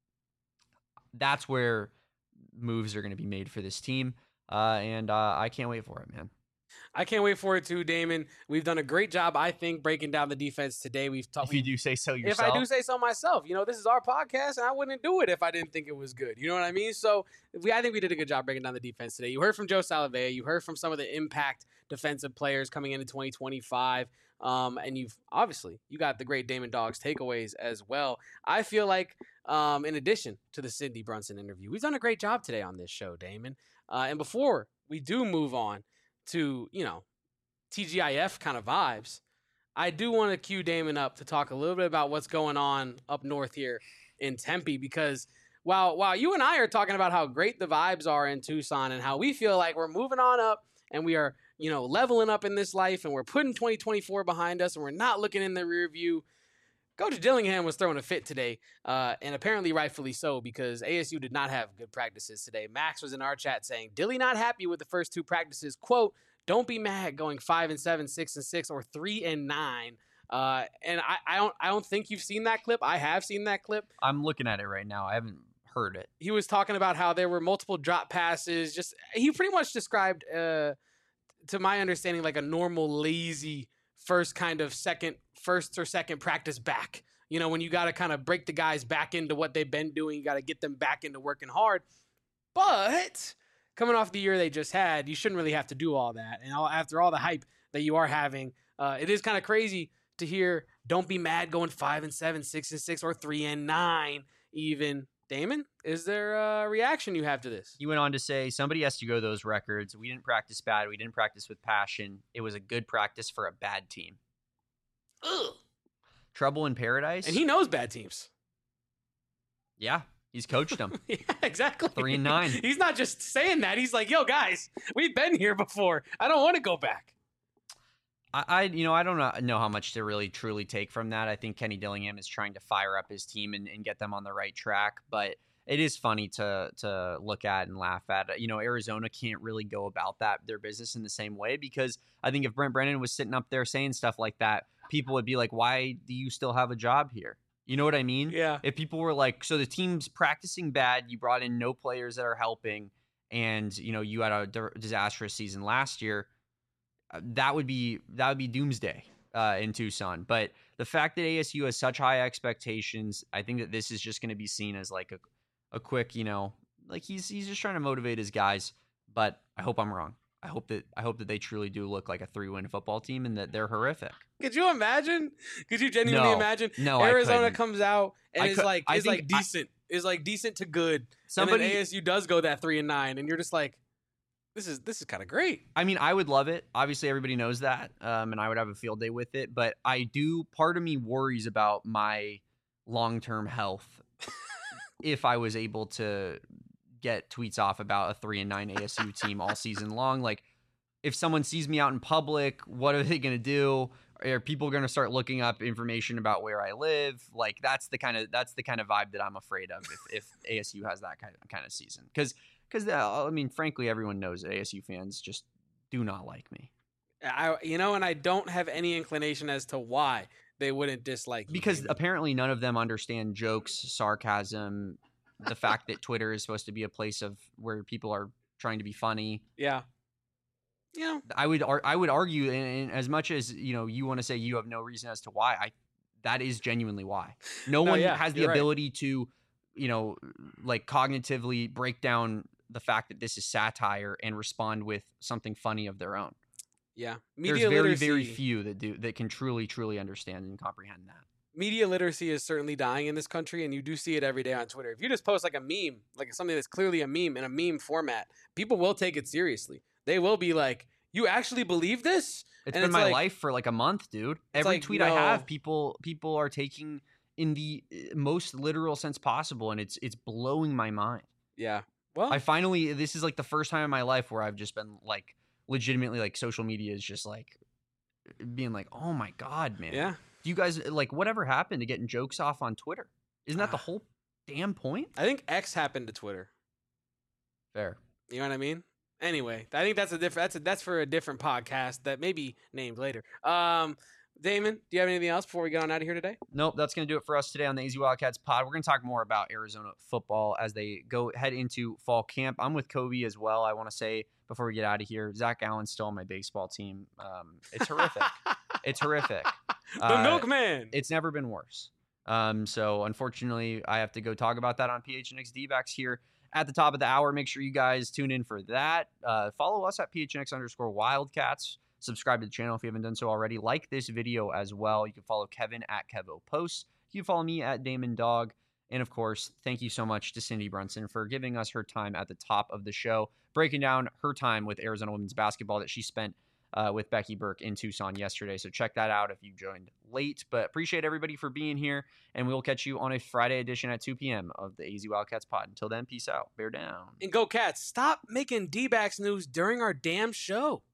S2: that's where moves are going to be made for this team. And I can't wait for it, man.
S1: I can't wait for it too, Damon. We've done a great job, I think, breaking down the defense today.
S2: If you do say so yourself.
S1: If I do say so myself. This is our podcast, and I wouldn't do it if I didn't think it was good. You know what I mean? So I think we did a good job breaking down the defense today. You heard from Joe Salve. You heard from some of the impact defensive players coming into 2025. And you got the great Damon Dogs takeaways as well. I feel like, in addition to the Cindy Brunson interview, we've done a great job today on this show, Damon. And before we do move on to, TGIF kind of vibes, I do want to cue Damon up to talk a little bit about what's going on up north here in Tempe, because while you and I are talking about how great the vibes are in Tucson and how we feel like we're moving on up and we are, leveling up in this life and we're putting 2024 behind us and we're not looking in the rear view, Coach Dillingham was throwing a fit today, and apparently rightfully so, because ASU did not have good practices today. Max was in our chat saying, Dilly not happy with the first two practices. Quote, don't be mad going 5-7, 6-6, or 3-9. And I don't think you've seen that clip. I have seen that clip.
S2: I'm looking at it right now. I haven't heard it.
S1: He was talking about how there were multiple drop passes. He pretty much described, to my understanding, like a normal lazy first or second practice back. When you got to kind of break the guys back into what they've been doing, you got to get them back into working hard. But coming off the year they just had, you shouldn't really have to do all that. And after all the hype that you are having, it is kind of crazy to hear, don't be mad going 5-7, 6-6, or 3-9 even. Damon, is there a reaction you have to this?
S2: He went on to say, somebody has to go those records. We didn't practice bad. We didn't practice with passion. It was a good practice for a bad team.
S1: Ugh.
S2: Trouble in paradise.
S1: And he knows bad teams.
S2: Yeah, he's coached them.
S1: Yeah, exactly.
S2: 3-9.
S1: He's not just saying that. He's like, yo, guys, we've been here before. I don't want to go back.
S2: I don't know how much to really truly take from that. I think Kenny Dillingham is trying to fire up his team and get them on the right track, but it is funny to look at and laugh at. Arizona can't really go about their business in the same way, because I think if Brent Brennan was sitting up there saying stuff like that, people would be like, why do you still have a job here? You know what I mean?
S1: Yeah.
S2: If people were like, so the team's practicing bad, you brought in no players that are helping, and you had a disastrous season last year, that would be doomsday in Tucson. But the fact that ASU has such high expectations, I think that this is just going to be seen as like a quick, like he's just trying to motivate his guys. But I hope I'm wrong. I hope that they truly do look like a 3-win football team and that they're horrific.
S1: Could you imagine? Could you genuinely imagine?
S2: No,
S1: Arizona comes out and is decent. Is like decent to good.
S2: Somebody,
S1: and then ASU does go that 3-9, and you're just like, this is kind of great.
S2: I mean, I would love it. Obviously, everybody knows that, and I would have a field day with it. But part of me worries about my long-term health if I was able to get tweets off about a 3-9 ASU team all season long. Like, if someone sees me out in public, what are they going to do? Are people going to start looking up information about where I live? Like, that's the kind of vibe that I'm afraid of if ASU has that kind of season. Because I mean, frankly, everyone knows that ASU fans just do not like me.
S1: And I don't have any inclination as to why they wouldn't dislike me.
S2: Because apparently none of them understand jokes, sarcasm, the fact that Twitter is supposed to be a place of where people are trying to be funny.
S1: Yeah.
S2: I would argue, and as much as you want to say you have no reason as to why, that is genuinely why. No one has the ability to, like cognitively break down the fact that this is satire and respond with something funny of their own.
S1: Yeah,
S2: there's very very few that can truly understand and comprehend that.
S1: Media literacy is certainly dying in this country, and you do see it every day on Twitter. If you just post like a meme, like something that's clearly a meme in a meme format, people will take it seriously. They will be like, you actually believe this?
S2: It's been my life for like a month, dude. Every tweet I have, people are taking in the most literal sense possible, and it's blowing my mind.
S1: Yeah. Well,
S2: this is like the first time in my life where I've just been like legitimately like social media is just like being like, oh my God, man.
S1: Yeah.
S2: Do you guys like whatever happened to getting jokes off on Twitter? Isn't that the whole damn point?
S1: I think X happened to Twitter.
S2: Fair.
S1: You know what I mean? Anyway, I think that's for a different podcast that may be named later. Damon, do you have anything else before we get on out of here today?
S2: Nope, that's going to do it for us today on the AZ Wildcats pod. We're going to talk more about Arizona football as they head into fall camp. I'm with Kobe as well. I want to say before we get out of here, Zach Allen's still on my baseball team. It's horrific. It's horrific.
S1: The milkman.
S2: It's never been worse. So unfortunately, I have to go talk about that on PHNX D-backs here at the top of the hour. Make sure you guys tune in for that. Follow us at PHNX_Wildcats. Subscribe to the channel if you haven't done so already. Like this video as well. You can follow Kevin at KevoPosts. You can follow me at Damon Dog. And of course, thank you so much to Cindy Brunson for giving us her time at the top of the show, breaking down her time with Arizona women's basketball that she spent with Becky Burke in Tucson yesterday. So check that out if you joined late. But appreciate everybody for being here. And we will catch you on a Friday edition at 2 p.m. of the AZ Wildcats pod. Until then, peace out. Bear down.
S1: And go Cats. Stop making D-backs news during our damn show.